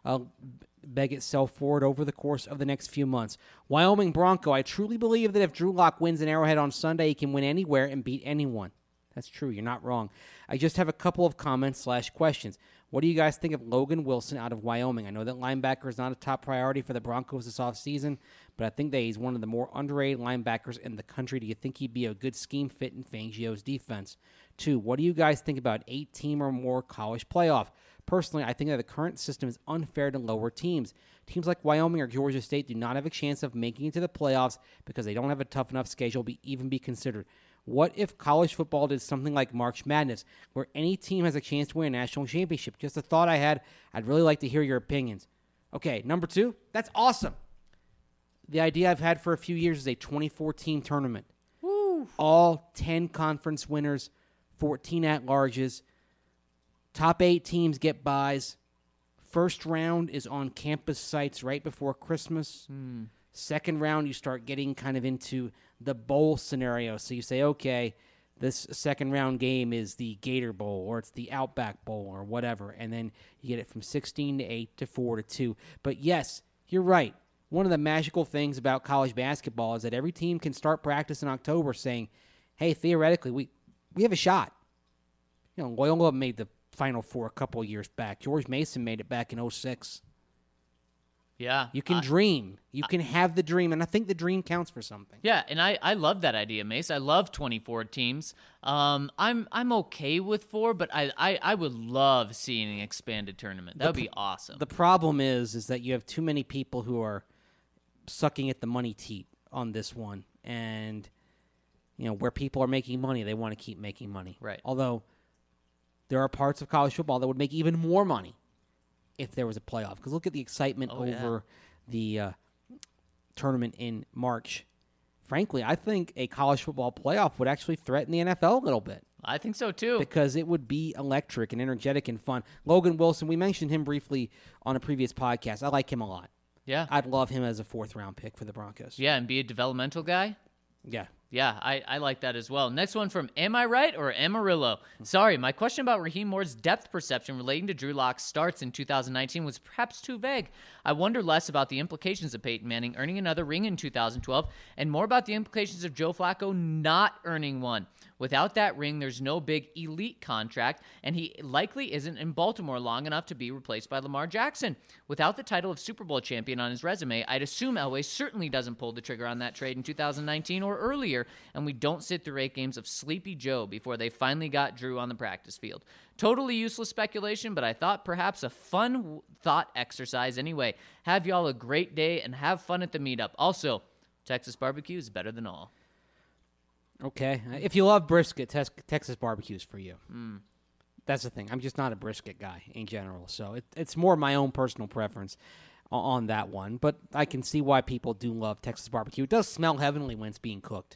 beg itself forward over the course of the next few months. Wyoming Bronco, I truly believe that if Drew Lock wins in Arrowhead on Sunday, he can win anywhere and beat anyone. That's true. You're not wrong. I just have a couple of comments/questions. What do you guys think of Logan Wilson out of Wyoming? I know that linebacker is not a top priority for the Broncos this offseason, but I think that he's one of the more underrated linebackers in the country. Do you think he'd be a good scheme fit in Fangio's defense? 2, what do you guys think about 8-team or more college playoff? Personally, I think that the current system is unfair to lower teams. Teams like Wyoming or Georgia State do not have a chance of making it to the playoffs because they don't have a tough enough schedule to even be considered. What if college football did something like March Madness, where any team has a chance to win a national championship? Just a thought I had. I'd really like to hear your opinions. Okay, number 2, that's awesome. The idea I've had for a few years is a 24-team tournament. Woo. All 10 conference winners, 14 at-larges. Top 8 teams get buys. First round is on campus sites right before Christmas. Second round, you start getting kind of into the bowl scenario. So you say, okay, this second round game is the Gator Bowl or it's the Outback Bowl or whatever. And then you get it from 16 to 8 to 4 to 2. But yes, you're right. One of the magical things about college basketball is that every team can start practice in October saying, hey, theoretically, we have a shot. You know, Loyola made the Final Four a couple years back. George Mason made it back in 2006. Yeah. You can dream. You can have the dream, and I think the dream counts for something. Yeah, and I love that idea, Mace. I love 24 teams. I'm okay with 4, but I would love seeing an expanded tournament. That would be awesome. The problem is that you have too many people who are sucking at the money teat on this one, and you know where people are making money, they want to keep making money. Right. Although there are parts of college football that would make even more money if there was a playoff. Because look at the excitement over the tournament in March. Frankly, I think a college football playoff would actually threaten the NFL a little bit. I think so, too. Because it would be electric and energetic and fun. Logan Wilson, we mentioned him briefly on a previous podcast. I like him a lot. Yeah. I'd love him as a 4th-round pick for the Broncos. Yeah, and be a developmental guy. Yeah. Yeah, I like that as well. Next one from Am I Right or Amarillo? Sorry, my question about Raheem Moore's depth perception relating to Drew Lock's starts in 2019 was perhaps too vague. I wonder less about the implications of Peyton Manning earning another ring in 2012 and more about the implications of Joe Flacco not earning one. Without that ring, there's no big elite contract, and he likely isn't in Baltimore long enough to be replaced by Lamar Jackson. Without the title of Super Bowl champion on his resume, I'd assume Elway certainly doesn't pull the trigger on that trade in 2019 or earlier, and we don't sit through 8 games of Sleepy Joe before they finally got Drew on the practice field. Totally useless speculation, but I thought perhaps a fun thought exercise anyway. Have y'all a great day and have fun at the meetup. Also, Texas barbecue is better than all. Okay. If you love brisket, Texas barbecue is for you. That's the thing. I'm just not a brisket guy in general, so it's more my own personal preference on that one. But I can see why people do love Texas barbecue. It does smell heavenly when it's being cooked.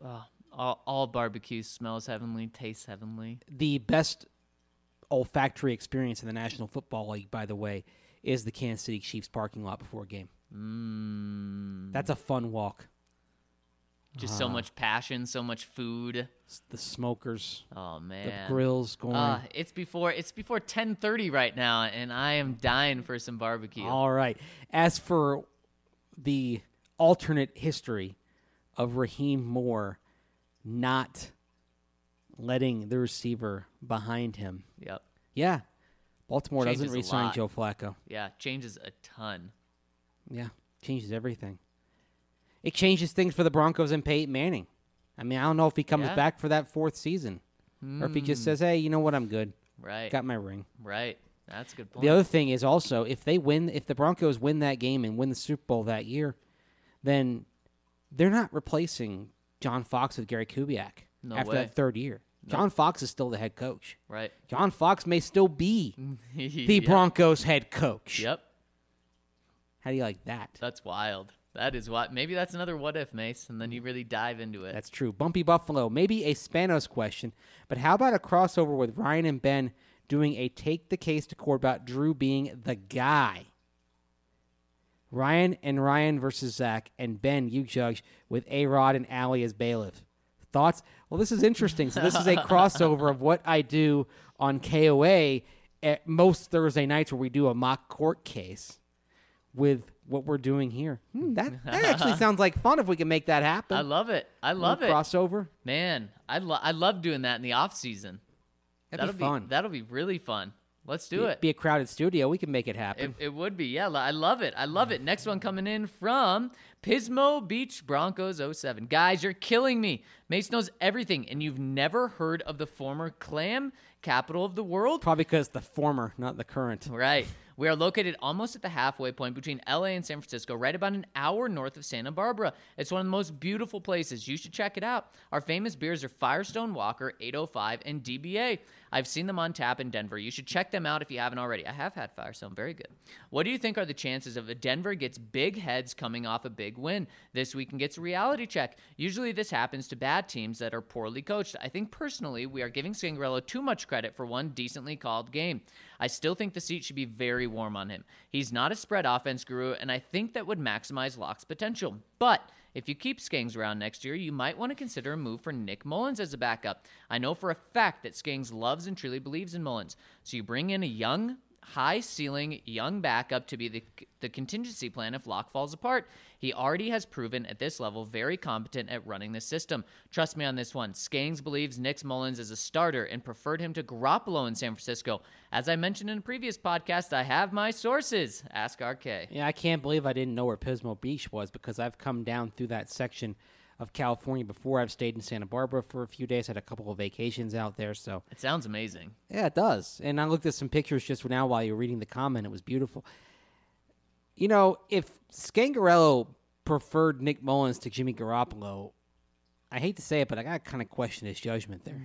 All barbecue smells heavenly, tastes heavenly. The best olfactory experience in the National Football League, by the way, is the Kansas City Chiefs parking lot before a game. That's a fun walk. Just so much passion, so much food. The smokers. Oh man, the grills going. It's before 10:30 right now, and I am dying for some barbecue. All right. As for the alternate history of Raheem Moore not letting the receiver behind him. Yep. Yeah. Baltimore Changes doesn't a re-sign lot. Joe Flacco. Yeah, changes a ton. Yeah, changes everything. It changes things for the Broncos and Peyton Manning. I mean, I don't know if he comes back for that 4th season or if he just says, hey, you know what, I'm good. Right. Got my ring. Right. That's a good point. The other thing is also, if the Broncos win that game and win the Super Bowl that year, then they're not replacing John Fox with Gary Kubiak after that 3rd year. John Fox is still the head coach. Right. John Fox may still be the Broncos head coach. Yep. How do you like that? That's wild. That is what. Maybe that's another what if, Mace, and then you really dive into it. That's true. Bumpy Buffalo, maybe a Spanos question, but how about a crossover with Ryan and Ben doing a take the case to court about Drew being the guy? Ryan versus Zach, and Ben, you judge, with A-Rod and Allie as bailiff. Thoughts? Well, this is interesting. So this is a crossover of what I do on KOA at most Thursday nights where we do a mock court case with what we're doing here. That actually sounds like fun if we can make that happen. I love it. I love it. Crossover. Man, I love doing that in the off season. That'll be fun. That'll be really fun. Let's do it. Be a crowded studio. We can make it happen. It would be. Yeah, I love it. I love it. Next one coming in from Pismo Beach Broncos 07. Guys, you're killing me. Mace knows everything, and you've never heard of the former clam capital of the world? Probably because the former, not the current. Right. We are located almost at the halfway point between LA and San Francisco, right about an hour north of Santa Barbara. It's one of the most beautiful places. You should check it out. Our famous beers are Firestone Walker, 805, and DBA. I've seen them on tap in Denver. You should check them out if you haven't already. I have had Firestone. Very good. What do you think are the chances of a Denver gets big heads coming off a big win this week and gets a reality check? Usually this happens to bad teams that are poorly coached. I think personally we are giving Scangarello too much credit for one decently called game. I still think the seat should be very warm on him. He's not a spread offense guru, and I think that would maximize Locke's potential. But if you keep Skangs around next year, you might want to consider a move for Nick Mullins as a backup. I know for a fact that Skangs loves and truly believes in Mullins. So you bring in a young, high-ceiling, young backup to be the contingency plan if Locke falls apart. He already has proven at this level very competent at running the system. Trust me on this one. Skangs believes Nick Mullins is a starter and preferred him to Garoppolo in San Francisco. As I mentioned in a previous podcast, I have my sources. Ask RK. Yeah, I can't believe I didn't know where Pismo Beach was because I've come down through that section of California before. I've stayed in Santa Barbara for a few days, had a couple of vacations out there. So It sounds amazing. yeah, it does. And I looked at some pictures just now while you were reading the comment. It was beautiful. You know, if Scangarello preferred Nick Mullins to Jimmy Garoppolo, I hate to say it, but I got to kind of question his judgment there.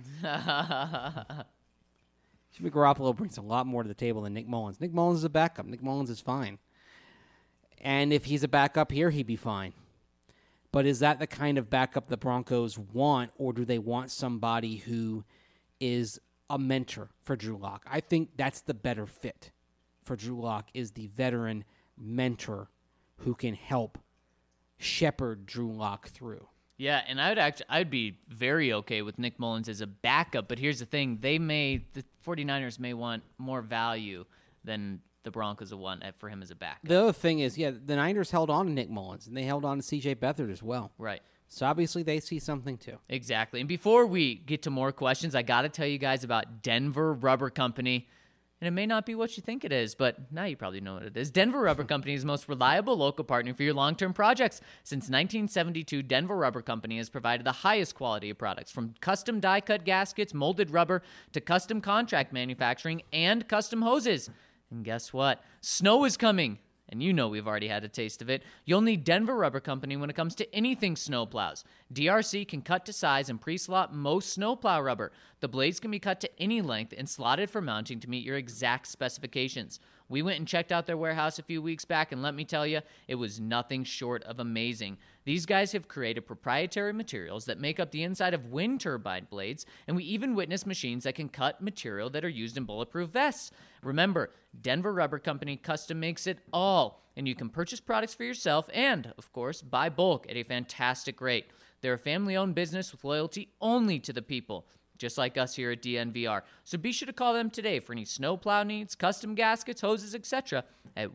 Jimmy Garoppolo brings a lot more to the table than Nick Mullins. Nick Mullins is a backup. Nick Mullins is fine. And if he's a backup here, he'd be fine. But is that the kind of backup the Broncos want, or do they want somebody who is a mentor for Drew Lock? I think that's the better fit for Drew Lock, is the veteran mentor who can help shepherd Drew Lock through. Yeah, and I'd be very okay with Nick Mullins as a backup, but here's the thing. The 49ers may want more value than the Broncos will want for him as a backup. The other thing is, the Niners held on to Nick Mullins, and they held on to C.J. Beathard as well. Right. So obviously they see something too. Exactly. And before we get to more questions, I got to tell you guys about Denver Rubber Company. And it may not be what you think it is, but now you probably know what it is. Denver Rubber Company is the most reliable local partner for your long-term projects. Since 1972, Denver Rubber Company has provided the highest quality of products, from custom die-cut gaskets, molded rubber, to custom contract manufacturing and custom hoses. And guess what? Snow is coming. And you know we've already had a taste of it. You'll need Denver Rubber Company when it comes to anything snowplows. DRC can cut to size and pre-slot most snowplow rubber. The blades can be cut to any length and slotted for mounting to meet your exact specifications. We went and checked out their warehouse a few weeks back, and let me tell you, it was nothing short of amazing. These guys have created proprietary materials that make up the inside of wind turbine blades, and we even witnessed machines that can cut material that are used in bulletproof vests. Remember, Denver Rubber Company custom makes it all, and you can purchase products for yourself and, of course, buy bulk at a fantastic rate. They're a family-owned business with loyalty only to the people, just like us here at DNVR. So be sure to call them today for any snowplow needs, custom gaskets, hoses, etc. at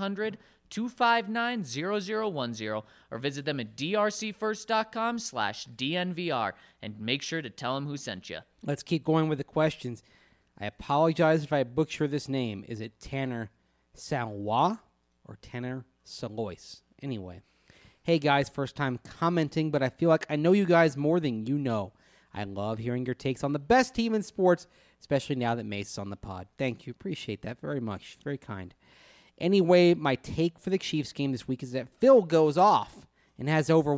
1-800-259-0010 or visit them at drcfirst.com/DNVR and make sure to tell them who sent you. Let's keep going with the questions. I apologize if I butcher this name. Is it Tanner Salois or Tanner Salois? Anyway. Hey guys, first time commenting, but I feel like I know you guys more than you know. I love hearing your takes on the best team in sports, especially now that Mace is on the pod. Thank you. Appreciate that very much. Very kind. Anyway, my take for the Chiefs game this week is that Phil goes off and has over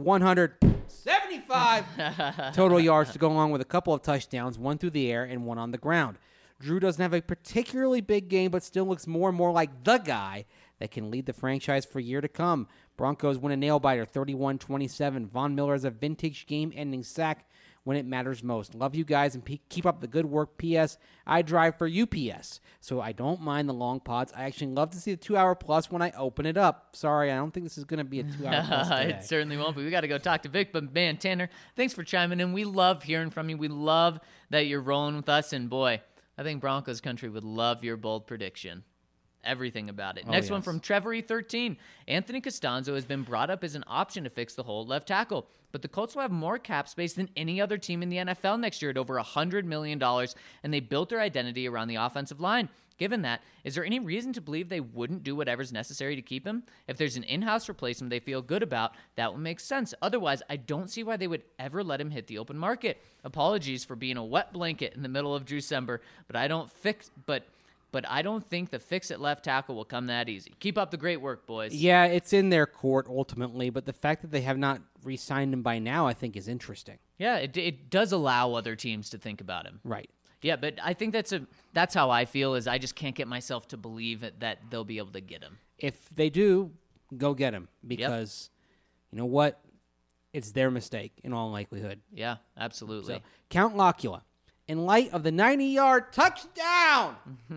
175 total yards to go along with a couple of touchdowns, one through the air and one on the ground. Drew doesn't have a particularly big game, but still looks more and more like the guy that can lead the franchise for a year to come. Broncos win a nail-biter, 31-27. Von Miller has a vintage game-ending sack when it matters most. Love you guys and keep up the good work. P.S. I drive for UPS, so I don't mind the long pods. I actually love to see the 2-hour plus when I open it up. Sorry, I don't think this is going to be a 2-hour plus today. It certainly won't be. We got to go talk to Vic. But, man, Tanner, thanks for chiming in. We love hearing from you. We love that you're rolling with us. And, boy, I think Broncos country would love your bold prediction. Everything about it. Next one from Trevor E13. Anthony Costanzo has been brought up as an option to fix the hole at left tackle, but the Colts will have more cap space than any other team in the NFL next year at over $100 million, and they built their identity around the offensive line. Given that, is there any reason to believe they wouldn't do whatever's necessary to keep him? If there's an in-house replacement they feel good about, that would make sense. Otherwise, I don't see why they would ever let him hit the open market. Apologies for being a wet blanket in the middle of December, but I don't think the fix at left tackle will come that easy. Keep up the great work, boys. Yeah, it's in their court ultimately, but the fact that they have not re-signed him by now, I think, is interesting. Yeah, it does allow other teams to think about him. Right. Yeah, but I think that's how I feel, is I just can't get myself to believe that they'll be able to get him. If they do, go get him, because you know what? It's their mistake in all likelihood. Yeah, absolutely. So, Count Locula. In light of the 90-yard touchdown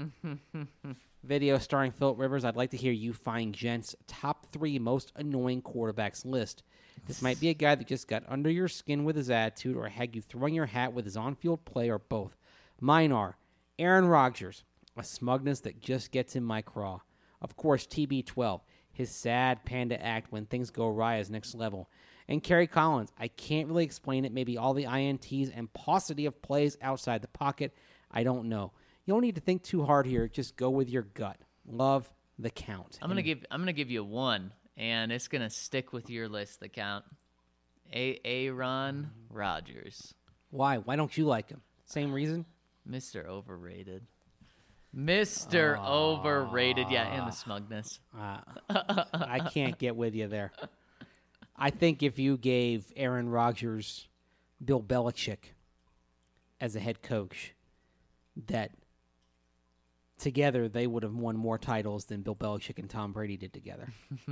video starring Philip Rivers, I'd like to hear you find Gent's top 3 most annoying quarterbacks list. This might be a guy that just got under your skin with his attitude or had you throwing your hat with his on-field play, or both. Mine are Aaron Rodgers, a smugness that just gets in my craw. Of course, TB12, his sad panda act when things go awry is next level. And Kerry Collins, I can't really explain it. Maybe all the INTs and paucity of plays outside the pocket. I don't know. You don't need to think too hard here. Just go with your gut. Love the Count. I'm gonna give you one, and it's gonna stick with your list. The Count, Aaron Rodgers. Why? Why don't you like him? Same reason. Mr. Overrated. Mr. Overrated. Yeah, and the smugness. I can't get with you there. I think if you gave Aaron Rodgers Bill Belichick as a head coach, that together they would have won more titles than Bill Belichick and Tom Brady did together.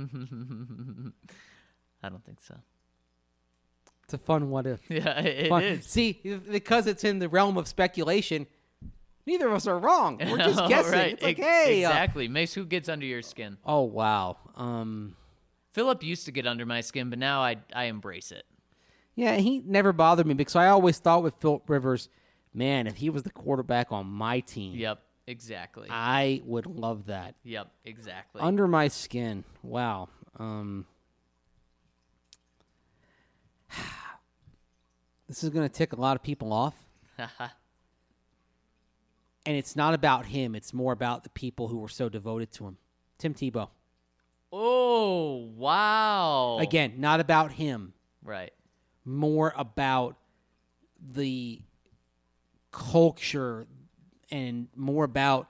I don't think so. It's a fun what if. Yeah, it is. See, because it's in the realm of speculation, neither of us are wrong. We're just guessing. Right. It's like, hey. Exactly. Mace, who gets under your skin? Oh, wow. Philip used to get under my skin, but now I embrace it. Yeah, he never bothered me because I always thought with Philip Rivers, man, if he was the quarterback on my team. Yep, exactly. I would love that. Yep, exactly. Under my skin. Wow. this is going to tick a lot of people off. And it's not about him. It's more about the people who were so devoted to him. Tim Tebow. Oh, wow. Again, not about him. Right. More about the culture and more about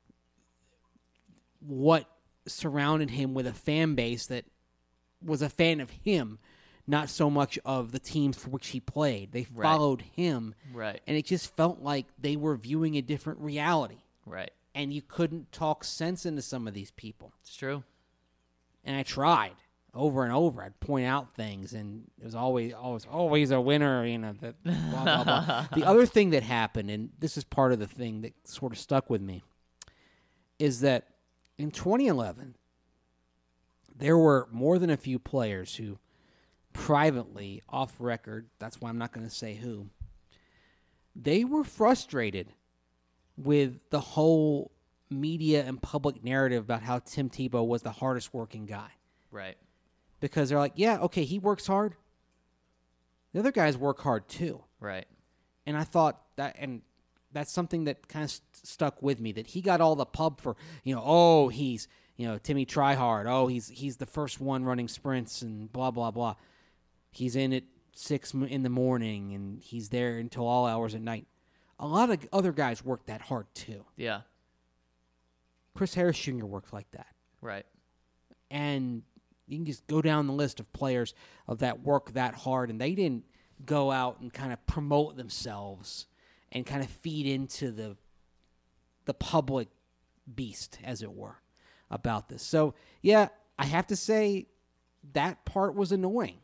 what surrounded him with a fan base that was a fan of him, not so much of the teams for which he played. They followed him. Right. And it just felt like they were viewing a different reality. Right. And you couldn't talk sense into some of these people. It's true. And I tried over and over. I'd point out things, and it was always a winner, you know, that blah, blah, blah. The other thing that happened, and this is part of the thing that sort of stuck with me, is that in 2011, there were more than a few players who privately, off record, that's why I'm not going to say who, they were frustrated with the whole media and public narrative about how Tim Tebow was the hardest working guy. Right. Because they're like, yeah, okay, he works hard. The other guys work hard too. Right. And I thought that, and that's something that kind of stuck with me, that he got all the pub for, he's, Timmy Tryhard. Oh, he's the first one running sprints and blah, blah, blah. He's in at 6 in the morning and he's there until all hours at night. A lot of other guys work that hard too. Yeah. Chris Harris Jr. worked like that. Right. And you can just go down the list of players of that work that hard, and they didn't go out and kind of promote themselves and kind of feed into the public beast, as it were, about this. So, yeah, I have to say that part was annoying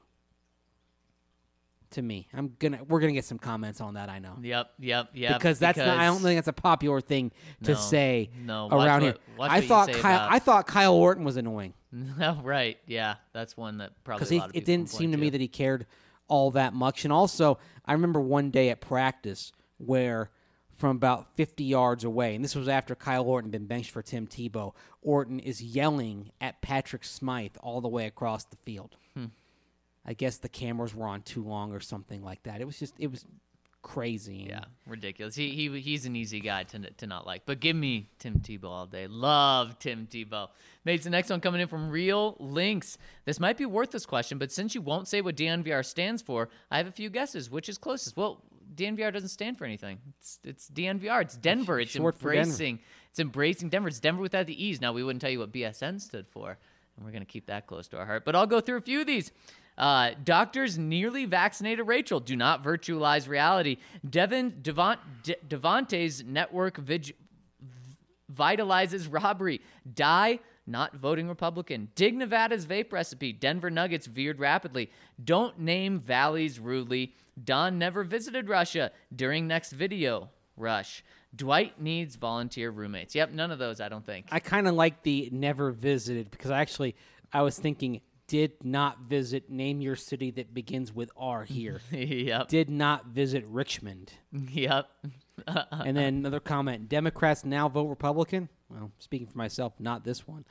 to me. We're gonna get some comments on that, I know. Yep. Because I don't think that's a popular thing to say around here. I thought Kyle Orton was annoying. Right. Yeah, that's one that probably because a lot of people it didn't can seem point to me that he cared all that much. And also, I remember one day at practice where from about 50 yards away, and this was after Kyle Orton had been benched for Tim Tebow, Orton is yelling at Patrick Smythe all the way across the field. I guess the cameras were on too long or something like that. It was crazy. Yeah, ridiculous. He's an easy guy to not like. But give me Tim Tebow all day. Love Tim Tebow. Mates, the next one coming in from Real Links. This might be worth this question, but since you won't say what DNVR stands for, I have a few guesses. Which is closest? Well, DNVR doesn't stand for anything. It's DNVR. It's Denver. It's embracing. It's embracing Denver. It's Denver without the E's. Now, we wouldn't tell you what BSN stood for, and we're going to keep that close to our heart. But I'll go through a few of these. Doctors nearly vaccinated Rachel. Do not virtualize reality. Devante's network vitalizes robbery. Die, not voting Republican. Dig Nevada's vape recipe. Denver Nuggets veered rapidly. Don't name valleys rudely. Don never visited Russia. During next video, Rush. Dwight needs volunteer roommates. Yep, none of those, I don't think. I kind of like the never visited because I was thinking did not visit, name your city that begins with R here. Yep. Did not visit Richmond. Yep. And then another comment, Democrats now vote Republican? Well, speaking for myself, not this one.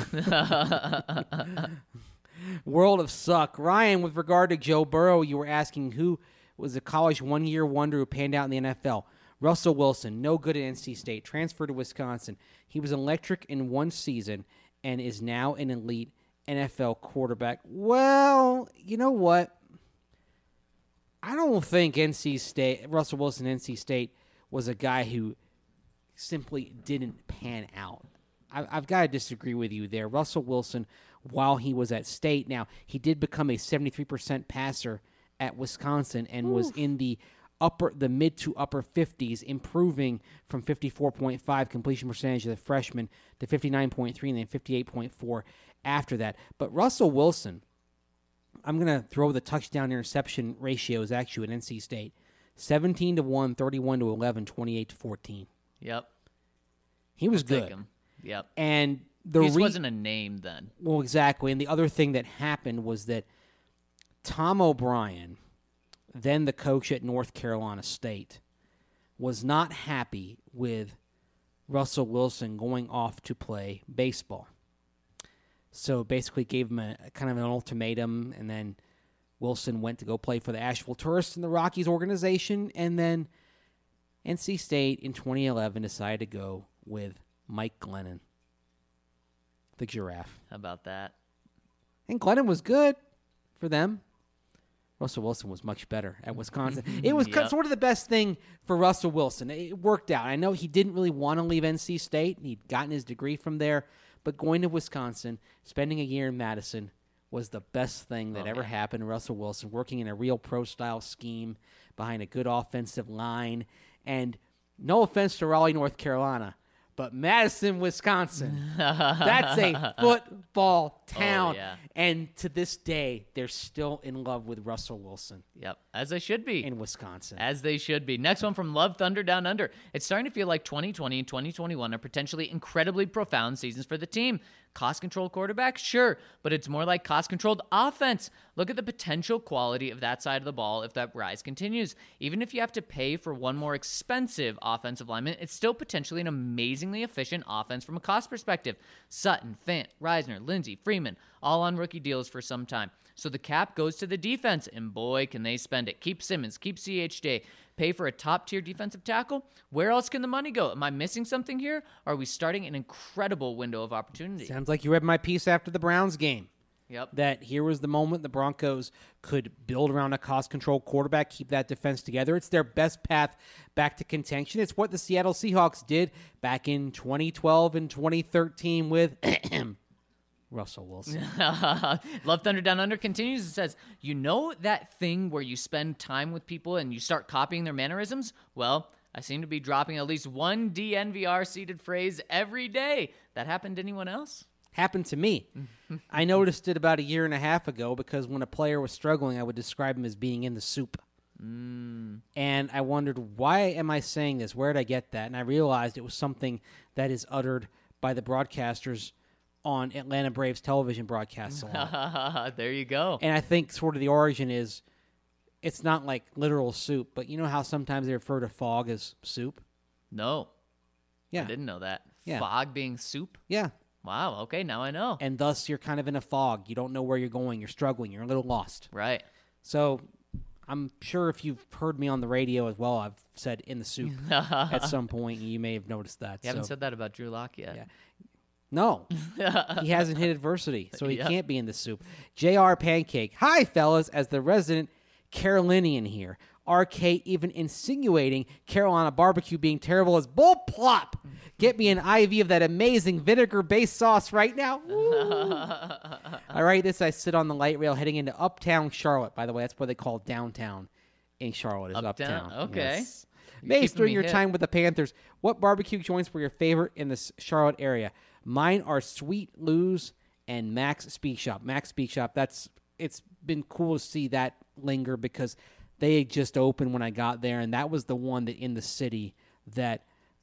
World of Suck. Ryan, with regard to Joe Burrow, you were asking who was a college one-year wonder who panned out in the NFL. Russell Wilson, no good at NC State, transferred to Wisconsin. He was electric in one season and is now an elite NFL quarterback. Well, you know what? I don't think Russell Wilson, NC State, was a guy who simply didn't pan out. I've got to disagree with you there. Russell Wilson, while he was at State, now he did become a 73% passer at Wisconsin and was in the mid to upper 50s, improving from 54.5 completion percentage of the freshman to 59.3 and then 58.4 after that. But Russell Wilson, I'm going to throw the touchdown interception ratios at you at NC State. 17-1, 31-11, 28-14. Yep. He was I'll good. take him. Yep. And he wasn't a name then. Well, exactly. And the other thing that happened was that Tom O'Brien, then the coach at North Carolina State, was not happy with Russell Wilson going off to play baseball. So basically gave him a kind of an ultimatum and then Wilson went to go play for the Asheville Tourists in the Rockies organization, and then NC State in 2011 decided to go with Mike Glennon, the Giraffe. How about that? And Glennon was good for them. Russell Wilson was much better at Wisconsin. It was Yep. sort of the best thing for Russell Wilson. It worked out. I know he didn't really want to leave NC State. He'd gotten his degree from there. But going to Wisconsin, spending a year in Madison, was the best thing that ever happened to Russell Wilson, working in a real pro-style scheme behind a good offensive line. And no offense to Raleigh, North Carolina, but Madison, Wisconsin, that's a football town. yeah. And to this day, they're still in love with Russell Wilson Yep, as they should be. in Wisconsin. As they should be. Next one from Love Thunder Down Under. It's starting to feel like 2020 and 2021 are potentially incredibly profound seasons for the team. Cost control quarterback? Sure, but it's more like cost controlled offense. Look at the potential quality of that side of the ball if that rise continues. Even if you have to pay for one more expensive offensive lineman, it's still potentially an amazingly efficient offense from a cost perspective. Sutton, Fant, Reisner, Lindsey, Freeman, all on rookie deals for some time. So the cap goes to the defense, and boy, can they spend it. Keep Simmons, keep CHJ, pay for a top-tier defensive tackle. Where else can the money go? Am I missing something here? Or are we starting an incredible window of opportunity? Sounds like you read my piece after the Browns game. Yep. That here was the moment the Broncos could build around a cost-control quarterback, keep that defense together. It's their best path back to contention. It's what the Seattle Seahawks did back in 2012 and 2013 with Russell Wilson. Love Thunder Down Under continues and says, you know that thing where you spend time with people and you start copying their mannerisms? Well, I seem to be dropping at least one DNVR seeded phrase every day. That happened to anyone else? Happened to me. I noticed it about a year and a half ago because when a player was struggling, I would describe him as being in the soup. And I wondered, why am I saying this? Where did I get that? And I realized it was something that is uttered by the broadcasters on Atlanta Braves television broadcasts a lot. There you go. And I think sort of the origin is, it's not like literal soup, but you know how sometimes they refer to fog as soup? No, Yeah. I didn't know that. Yeah. Fog being soup? Yeah. Wow, okay, now I know. And thus you're kind of in a fog. You don't know where you're going. You're struggling. You're a little lost. Right. So I'm sure if you've heard me on the radio as well, I've said in the soup at some point. You may have noticed that. You haven't So- said that about Drew Lock yet. Yeah. No, he hasn't hit adversity, so he Yep. can't be in the soup. JR Pancake. Hi, fellas, as the resident Carolinian here. RK even insinuating Carolina barbecue being terrible as bull plop. Get me an IV of that amazing vinegar-based sauce right now. Woo. I write this, I sit on the light rail heading into Uptown Charlotte. By the way, that's what they call downtown in Charlotte is Uptown, okay. Yes. You're Mace, keeping during me your hip. time with the Panthers, what barbecue joints were your favorite in the Charlotte area? Mine are Sweet Lou's and Max Speak Shop. Max Speak Shop, it's been cool to see that linger because they had just opened when I got there, and that was the one that in the city that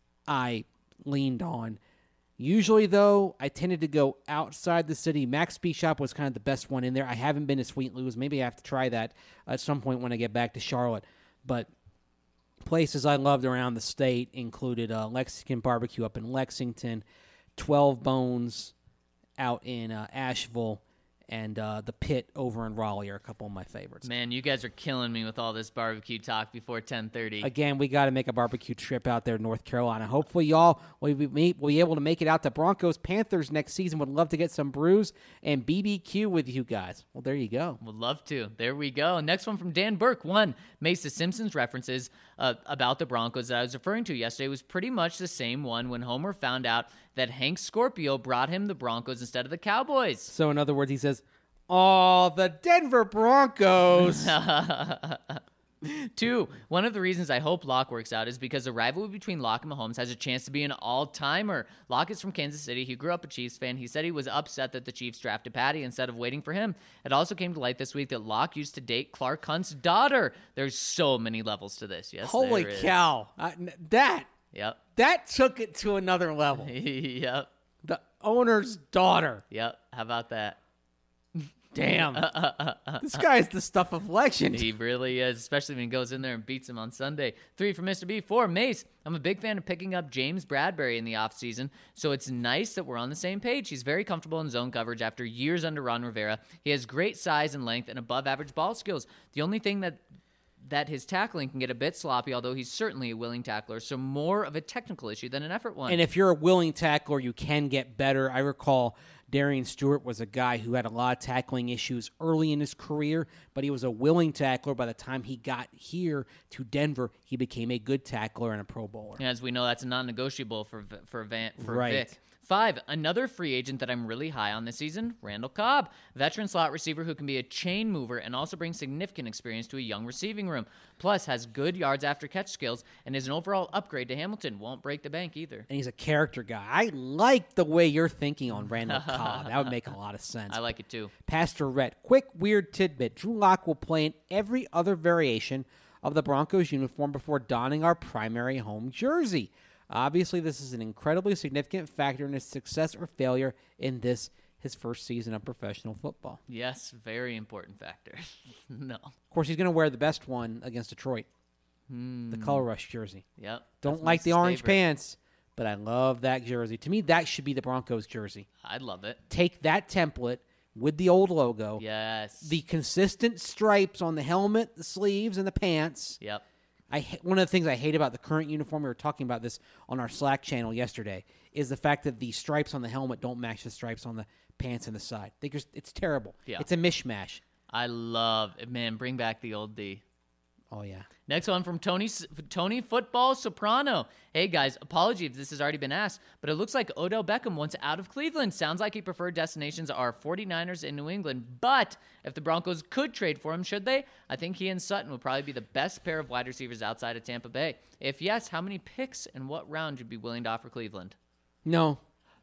I leaned on. Usually, though, I tended to go outside the city. Max Speak Shop was kind of the best one in there. I haven't been to Sweet Lou's. Maybe I have to try that at some point when I get back to Charlotte. But places I loved around the state included Lexington Barbecue up in Lexington, 12 Bones out in Asheville, and the Pit over in Raleigh are a couple of my favorites. Man, you guys are killing me with all this barbecue talk before 10:30. Again, we got to make a barbecue trip out there in North Carolina. Hopefully, y'all will be able to make it out to Broncos Panthers next season. Would love to get some brews and BBQ with you guys. Well, there you go. Would love to. There we go. Next one from Dan Burke. One, Mesa Simpson's references about the Broncos that I was referring to yesterday was pretty much the same one when Homer found out that Hank Scorpio brought him the Broncos instead of the Cowboys. So, in other words, he says, "Oh, the Denver Broncos." 2, one of the reasons I hope Locke works out is because the rivalry between Locke and Mahomes has a chance to be an all-timer. Locke is from Kansas City. He grew up a Chiefs fan. He said he was upset that the Chiefs drafted Patty instead of waiting for him. It also came to light this week that Locke used to date Clark Hunt's daughter. There's so many levels to this. Yes, Holy there is. cow. That Yep. took it to another level. Yep. The owner's daughter. Yep. How about that? Damn. This guy's the stuff of legend. He really is, especially when he goes in there and beats him on Sunday. 3 for Mr. B. 4, Mace. I'm a big fan of picking up James Bradbury in the offseason, so it's nice that we're on the same page. He's very comfortable in zone coverage after years under Ron Rivera. He has great size and length and above-average ball skills. The only thing that his tackling can get a bit sloppy, although he's certainly a willing tackler, so more of a technical issue than an effort one. And if you're a willing tackler, you can get better. I recall Darian Stewart was a guy who had a lot of tackling issues early in his career, but he was a willing tackler. By the time he got here to Denver, he became a good tackler and a Pro Bowler. As we know, that's a non-negotiable for Right. Vic. 5, another free agent that I'm really high on this season, Randall Cobb, veteran slot receiver who can be a chain mover and also brings significant experience to a young receiving room. Plus, has good yards after catch skills and is an overall upgrade to Hamilton. Won't break the bank either. And he's a character guy. I like the way you're thinking on Randall Cobb. That would make a lot of sense. I like it too. Pastor Rhett, quick weird tidbit. Drew Lock will play in every other variation of the Broncos uniform before donning our primary home jersey. Obviously, this is an incredibly significant factor in his success or failure in his first season of professional football. Yes, very important factor. No. Of course, he's going to wear the best one against Detroit, the Color Rush jersey. Yep. Don't that's like the Mace's orange favorite. pants, but I love that jersey. To me, that should be the Broncos jersey. I'd love it. Take that template with the old logo, Yes. the consistent stripes on the helmet, the sleeves, and the pants. Yep. One of the things I hate about the current uniform, we were talking about this on our Slack channel yesterday, is the fact that the stripes on the helmet don't match the stripes on the pants and the side. It's terrible. Yeah. It's a mishmash. I love it. Man, bring back the old D. Oh, yeah. Next one from Tony Football Soprano. Hey, guys, apology if this has already been asked, but it looks like Odell Beckham wants out of Cleveland. Sounds like he preferred destinations are 49ers and New England, but if the Broncos could trade for him, should they? I think he and Sutton would probably be the best pair of wide receivers outside of Tampa Bay. If yes, how many picks and what round would you be willing to offer Cleveland? No.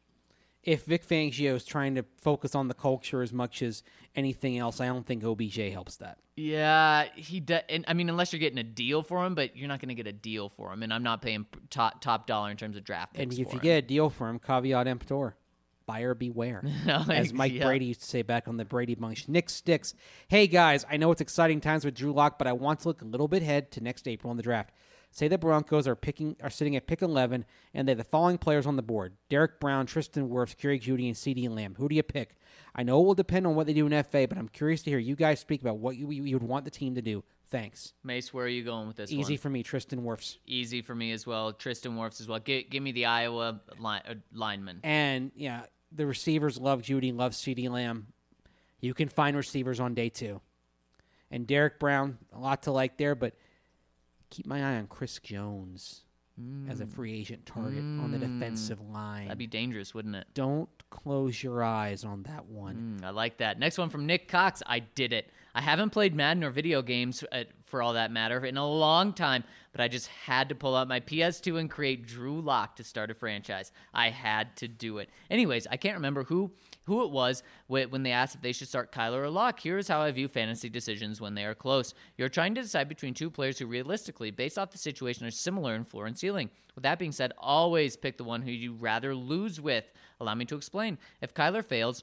If Vic Fangio is trying to focus on the culture as much as anything else, I don't think OBJ helps that. Yeah, he does. I mean, unless you're getting a deal for him, but you're not going to get a deal for him, and I'm not paying top dollar in terms of draft picks And for if you him. get a deal for him, caveat emptor. Buyer beware. As Mike Yeah. Brady used to say back on the Brady Bunch. Nick Sticks. Hey, guys, I know it's exciting times with Drew Lock, but I want to look a little bit ahead to next April in the draft. Say the Broncos are sitting at pick 11, and they have the following players on the board: Derek Brown, Tristan Wirfs, Kerry Jeudy, and CeeDee Lamb. Who do you pick? I know it will depend on what they do in FA, but I'm curious to hear you guys speak about what you would want the team to do. Thanks. Mace, where are you going with this Easy one? for me, Tristan Wirfs. Easy for me as well. Tristan Wirfs as well. Give me the Iowa lineman. And, yeah, the receivers love Jeudy, love CeeDee Lamb. You can find receivers on day 2. And Derek Brown, a lot to like there, but keep my eye on Chris Jones as a free agent target on the defensive line. That'd be dangerous, wouldn't it? Don't close your eyes on that one. I like that. Next one from Nick Cox. I did it. I haven't played Madden or video games, for all that matter, in a long time, but I just had to pull out my PS2 and create Drew Lock to start a franchise. I had to do it. Anyways, I can't remember who it was when they asked if they should start Kyler or Lock. Here's how I view fantasy decisions when they are close. You're trying to decide between two players who realistically, based off the situation, are similar in floor and ceiling. With that being said, always pick the one who you'd rather lose with. Allow me to explain. If Kyler fails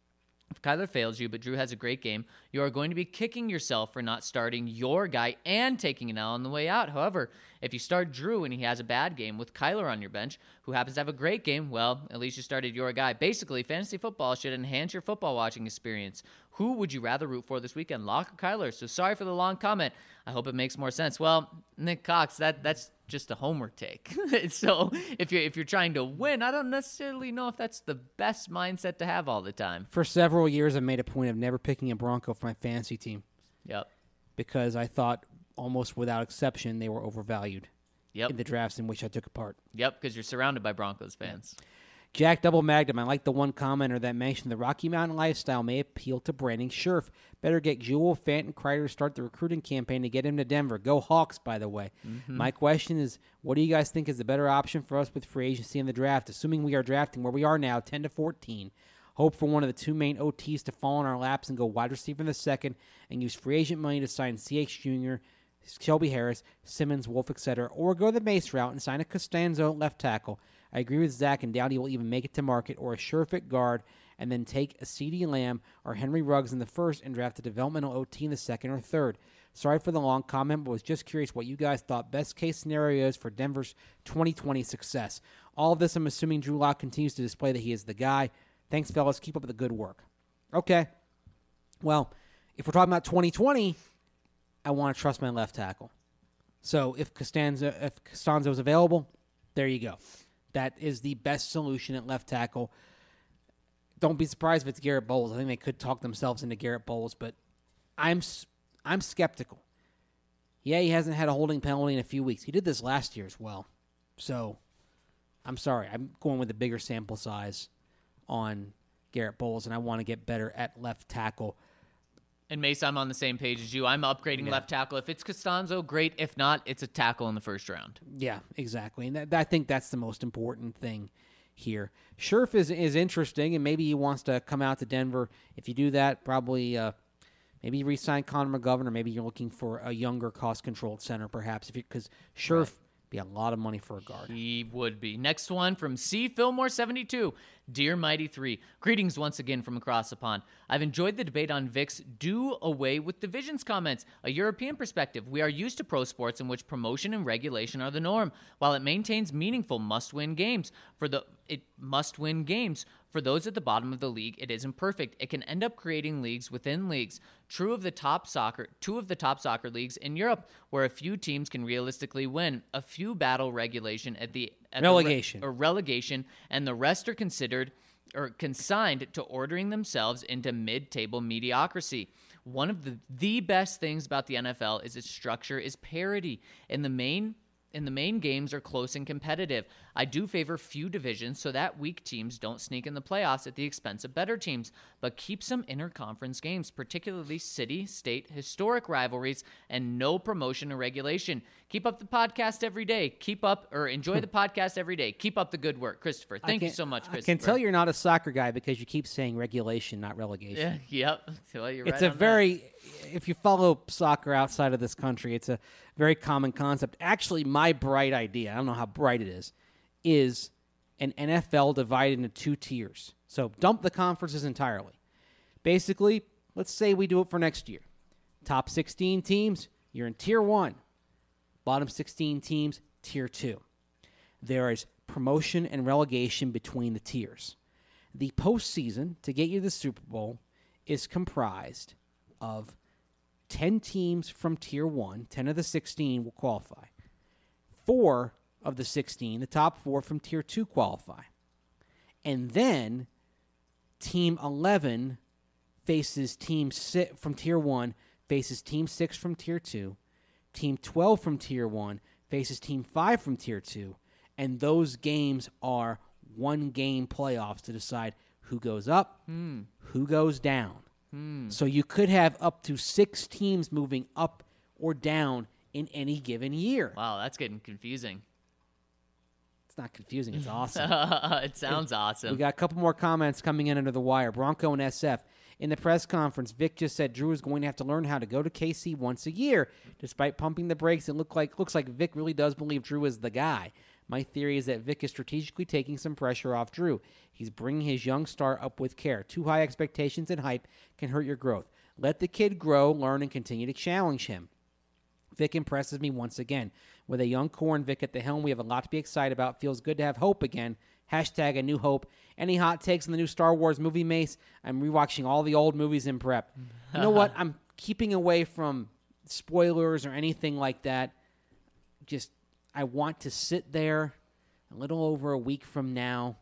you, but Drew has a great game, you are going to be kicking yourself for not starting your guy and taking an L on the way out. However, if you start Drew and he has a bad game with Kyler on your bench, who happens to have a great game, well, at least you started your guy. Basically, fantasy football should enhance your football watching experience. Who would you rather root for this weekend, Lock or Kyler? So sorry for the long comment. I hope it makes more sense. Well, Nick Cox, that's just a homer take. So if you're trying to win, I don't necessarily know if that's the best mindset to have all the time. For several years, I made a point of never picking a Bronco for my fantasy team Yep. because I thought, almost without exception, they were overvalued in the drafts in which I took part. Yep, because you're surrounded by Broncos fans. Jack Double Magnum, I like the one commenter that mentioned the Rocky Mountain lifestyle may appeal to Brandon Scherf. Better get Jewel, Fant, and Kreider to start the recruiting campaign to get him to Denver. Go Hawks, by the way. My question is, what do you guys think is the better option for us with free agency in the draft, assuming we are drafting where we are now, 10 to 14? Hope for one of the two main OTs to fall in our laps and go wide receiver in the second and use free agent money to sign CH Jr., Shelby Harris, Simmons, Wolf, etc., or go the Mace route and sign a Costanzo left tackle. I agree with Zach and doubt he will even make it to market, or a sure-fit guard and then take a CeeDee Lamb or Henry Ruggs in the first and draft a developmental OT in the second or third. Sorry for the long comment, but was just curious what you guys thought best case scenarios for Denver's 2020 success. All of this, I'm assuming Drew Lock continues to display that he is the guy. Thanks, fellas. Keep up the good work. Okay. Well, if we're talking about 2020, I want to trust my left tackle. So if Costanzo's available, there you go. That is the best solution at left tackle. Don't be surprised if it's Garrett Bowles. I think they could talk themselves into Garrett Bowles, but I'm skeptical. Yeah, he hasn't had a holding penalty in a few weeks. He did this last year as well. So I'm sorry. I'm going with a bigger sample size on Garrett Bowles, and I want to get better at left tackle. And Mace, I'm on the same page as you. I'm upgrading left tackle. If it's Costanzo, great. If not, it's a tackle in the first round. Yeah, exactly. And I think that's the most important thing here. Scherf is interesting, and maybe he wants to come out to Denver. If you do that, probably maybe you re-sign Connor McGovern, or maybe you're looking for a younger, cost-controlled center, perhaps, because Scherf be a lot of money for a guard. He would be. Next one from C. Fillmore 72. Dear Mighty 3, greetings once again from across the pond. I've enjoyed the debate on Vic's do away with divisions comments. A European perspective, we are used to pro sports in which promotion and regulation are the norm, while it maintains meaningful must-win games. It must win games. For those at the bottom of the league, it isn't perfect. It can end up creating leagues within leagues. Two of the top soccer leagues in Europe, where a few teams can realistically win. A few battle regulation at relegation, and the rest are considered or consigned to ordering themselves into mid-table mediocrity. One of the best things about the NFL is its structure is parity. In the main games are close and competitive. I do favor few divisions so that weak teams don't sneak in the playoffs at the expense of better teams, but keep some interconference games, particularly city, state, historic rivalries, and no promotion or regulation. Keep up the podcast every day. Enjoy the podcast every day. Keep up the good work. Christopher, thank you so much, Christopher. I can tell you're not a soccer guy because you keep saying regulation, not relegation. Yep. Well, you're it's right a very, if you follow soccer outside of this country, it's a very common concept. Actually, my bright idea, I don't know how bright it is an NFL divided into two tiers. So dump the conferences entirely. Basically, let's say we do it for next year. Top 16 teams, you're in tier 1. Bottom 16 teams, tier 2. There is promotion and relegation between the tiers. The postseason, to get you the Super Bowl, is comprised of 10 teams from tier 1. 10 of the 16 will qualify. 4 of the 16, the top 4 from tier 2 qualify. And then team 11 faces team 6 from tier 1, faces team 6 from tier 2. Team 12 from tier 1 faces team 5 from tier 2. And those games are one-game playoffs to decide who goes up, who goes down. So you could have up to 6 teams moving up or down in any given year. Wow, that's getting confusing. It's not confusing. It's awesome. It sounds awesome. We got a couple more comments coming in under the wire. Bronco and SF. In the press conference, Vic just said Drew is going to have to learn how to go to KC once a year. Despite pumping the brakes, it looks like Vic really does believe Drew is the guy. My theory is that Vic is strategically taking some pressure off Drew. He's bringing his young star up with care. Too high expectations and hype can hurt your growth. Let the kid grow, learn, and continue to challenge him. Vic impresses me once again. With a young core and Vic at the helm, we have a lot to be excited about. Feels good to have hope again. Hashtag a new hope. Any hot takes on the new Star Wars movie, Mace? I'm rewatching all the old movies in prep. You know what? I'm keeping away from spoilers or anything like that. Just, I want to sit there a little over a week from now.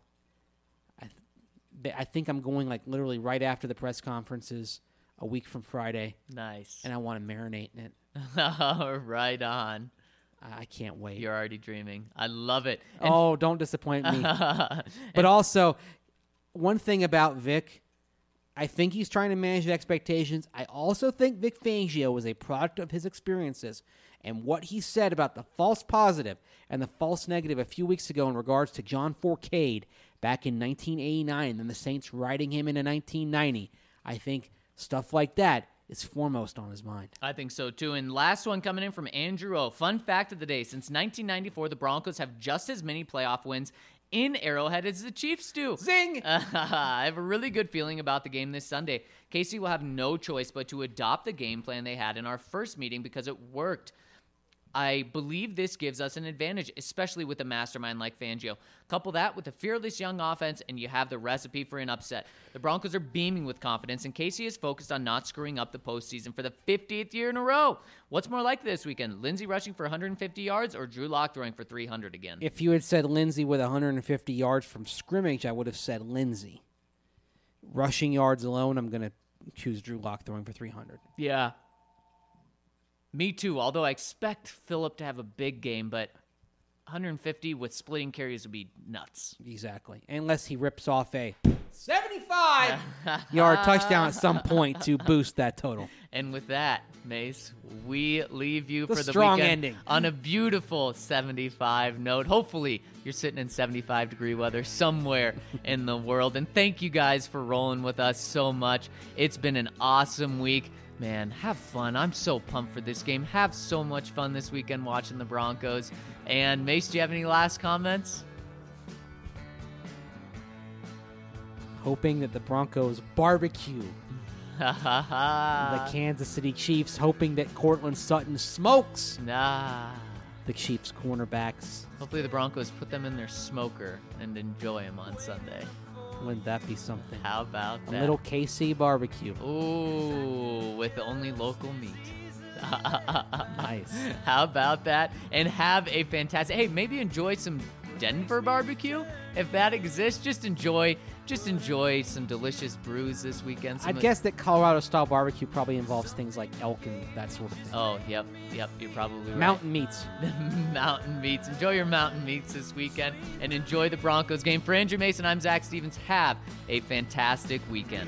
I think I'm going like literally right after the press conferences, a week from Friday. Nice. And I want to marinate in it. Right on. I can't wait. You're already dreaming. I love it. And don't disappoint me. But also, one thing about Vic, I think he's trying to manage the expectations. I also think Vic Fangio is a product of his experiences. And what he said about the false positive and the false negative a few weeks ago in regards to John Fourcade back in 1989 and the Saints riding him into 1990, I think stuff like that is foremost on his mind. I think so, too. And last one coming in from Andrew O. Fun fact of the day. Since 1994, the Broncos have just as many playoff wins in Arrowhead as the Chiefs do. Zing! I have a really good feeling about the game this Sunday. Casey will have no choice but to adopt the game plan they had in our first meeting because it worked. I believe this gives us an advantage, especially with a mastermind like Fangio. Couple that with a fearless young offense, and you have the recipe for an upset. The Broncos are beaming with confidence, and Casey is focused on not screwing up the postseason for the 50th year in a row. What's more likely this weekend, Lindsey rushing for 150 yards or Drew Lock throwing for 300 again? If you had said Lindsey with 150 yards from scrimmage, I would have said Lindsey. Rushing yards alone, I'm going to choose Drew Lock throwing for 300. Yeah. Me too, although I expect Phillip to have a big game, but 150 with splitting carries would be nuts. Exactly. Unless he rips off a 75-yard touchdown at some point to boost that total. And with that, Mace, we leave you The for the strong weekend ending. on a beautiful 75 note. Hopefully, you're sitting in 75-degree weather somewhere in the world. And thank you guys for rolling with us so much. It's been an awesome week. Man, have fun. I'm so pumped for this game. Have so much fun this weekend watching the Broncos. And Mace, do you have any last comments? Hoping that the Broncos barbecue Ha the Kansas City Chiefs, hoping that Cortland Sutton smokes Nah. the Chiefs cornerbacks. Hopefully the Broncos put them in their smoker and enjoy them on Sunday. Wouldn't that be something? How about A that? little KC barbecue. Ooh, with only local meat. Nice. How about that? And have a fantastic, hey, maybe enjoy some Denver barbecue. If that exists, just enjoy some delicious brews this weekend. I'd guess that Colorado-style barbecue probably involves things like elk and that sort of thing. Oh, yep, you're probably right. Mountain meats. Mountain meats. Enjoy your mountain meats this weekend and enjoy the Broncos game. For Andrew Mason, I'm Zach Stevens. Have a fantastic weekend.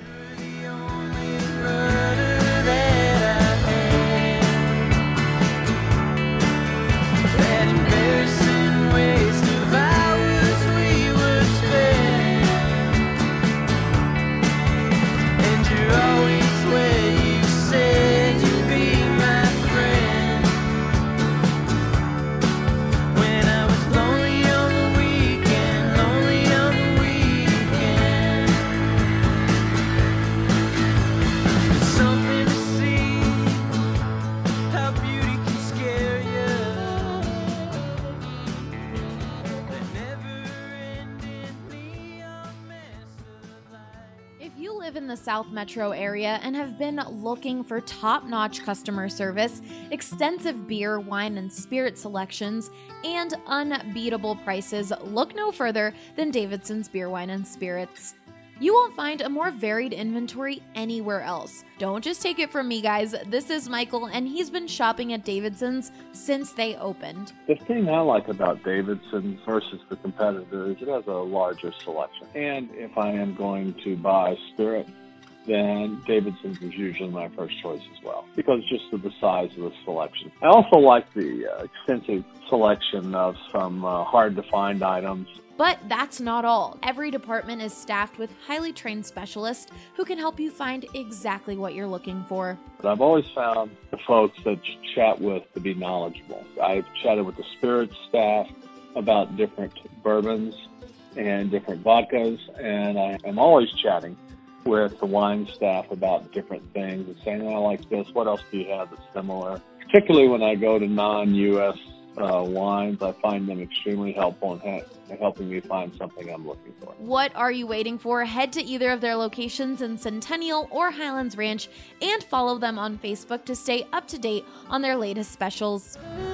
South Metro area and have been looking for top-notch customer service, extensive beer, wine, and spirit selections, and unbeatable prices, look no further than Davidson's Beer, Wine, and Spirits. You won't find a more varied inventory anywhere else. Don't just take it from me, guys. This is Michael, and he's been shopping at Davidson's since they opened. The thing I like about Davidson's versus the competitor is it has a larger selection. And if I am going to buy spirit, then Davidson's is usually my first choice as well, because just of the size of the selection. I also like the extensive selection of some hard-to-find items. But that's not all. Every department is staffed with highly trained specialists who can help you find exactly what you're looking for. But I've always found the folks that you chat with to be knowledgeable. I've chatted with the spirits staff about different bourbons and different vodkas, and I am always chatting with the wine staff about different things and saying, I like this, what else do you have that's similar? Particularly when I go to non-U.S. wines, I find them extremely helpful in helping me find something I'm looking for. What are you waiting for? Head to either of their locations in Centennial or Highlands Ranch and follow them on Facebook to stay up to date on their latest specials.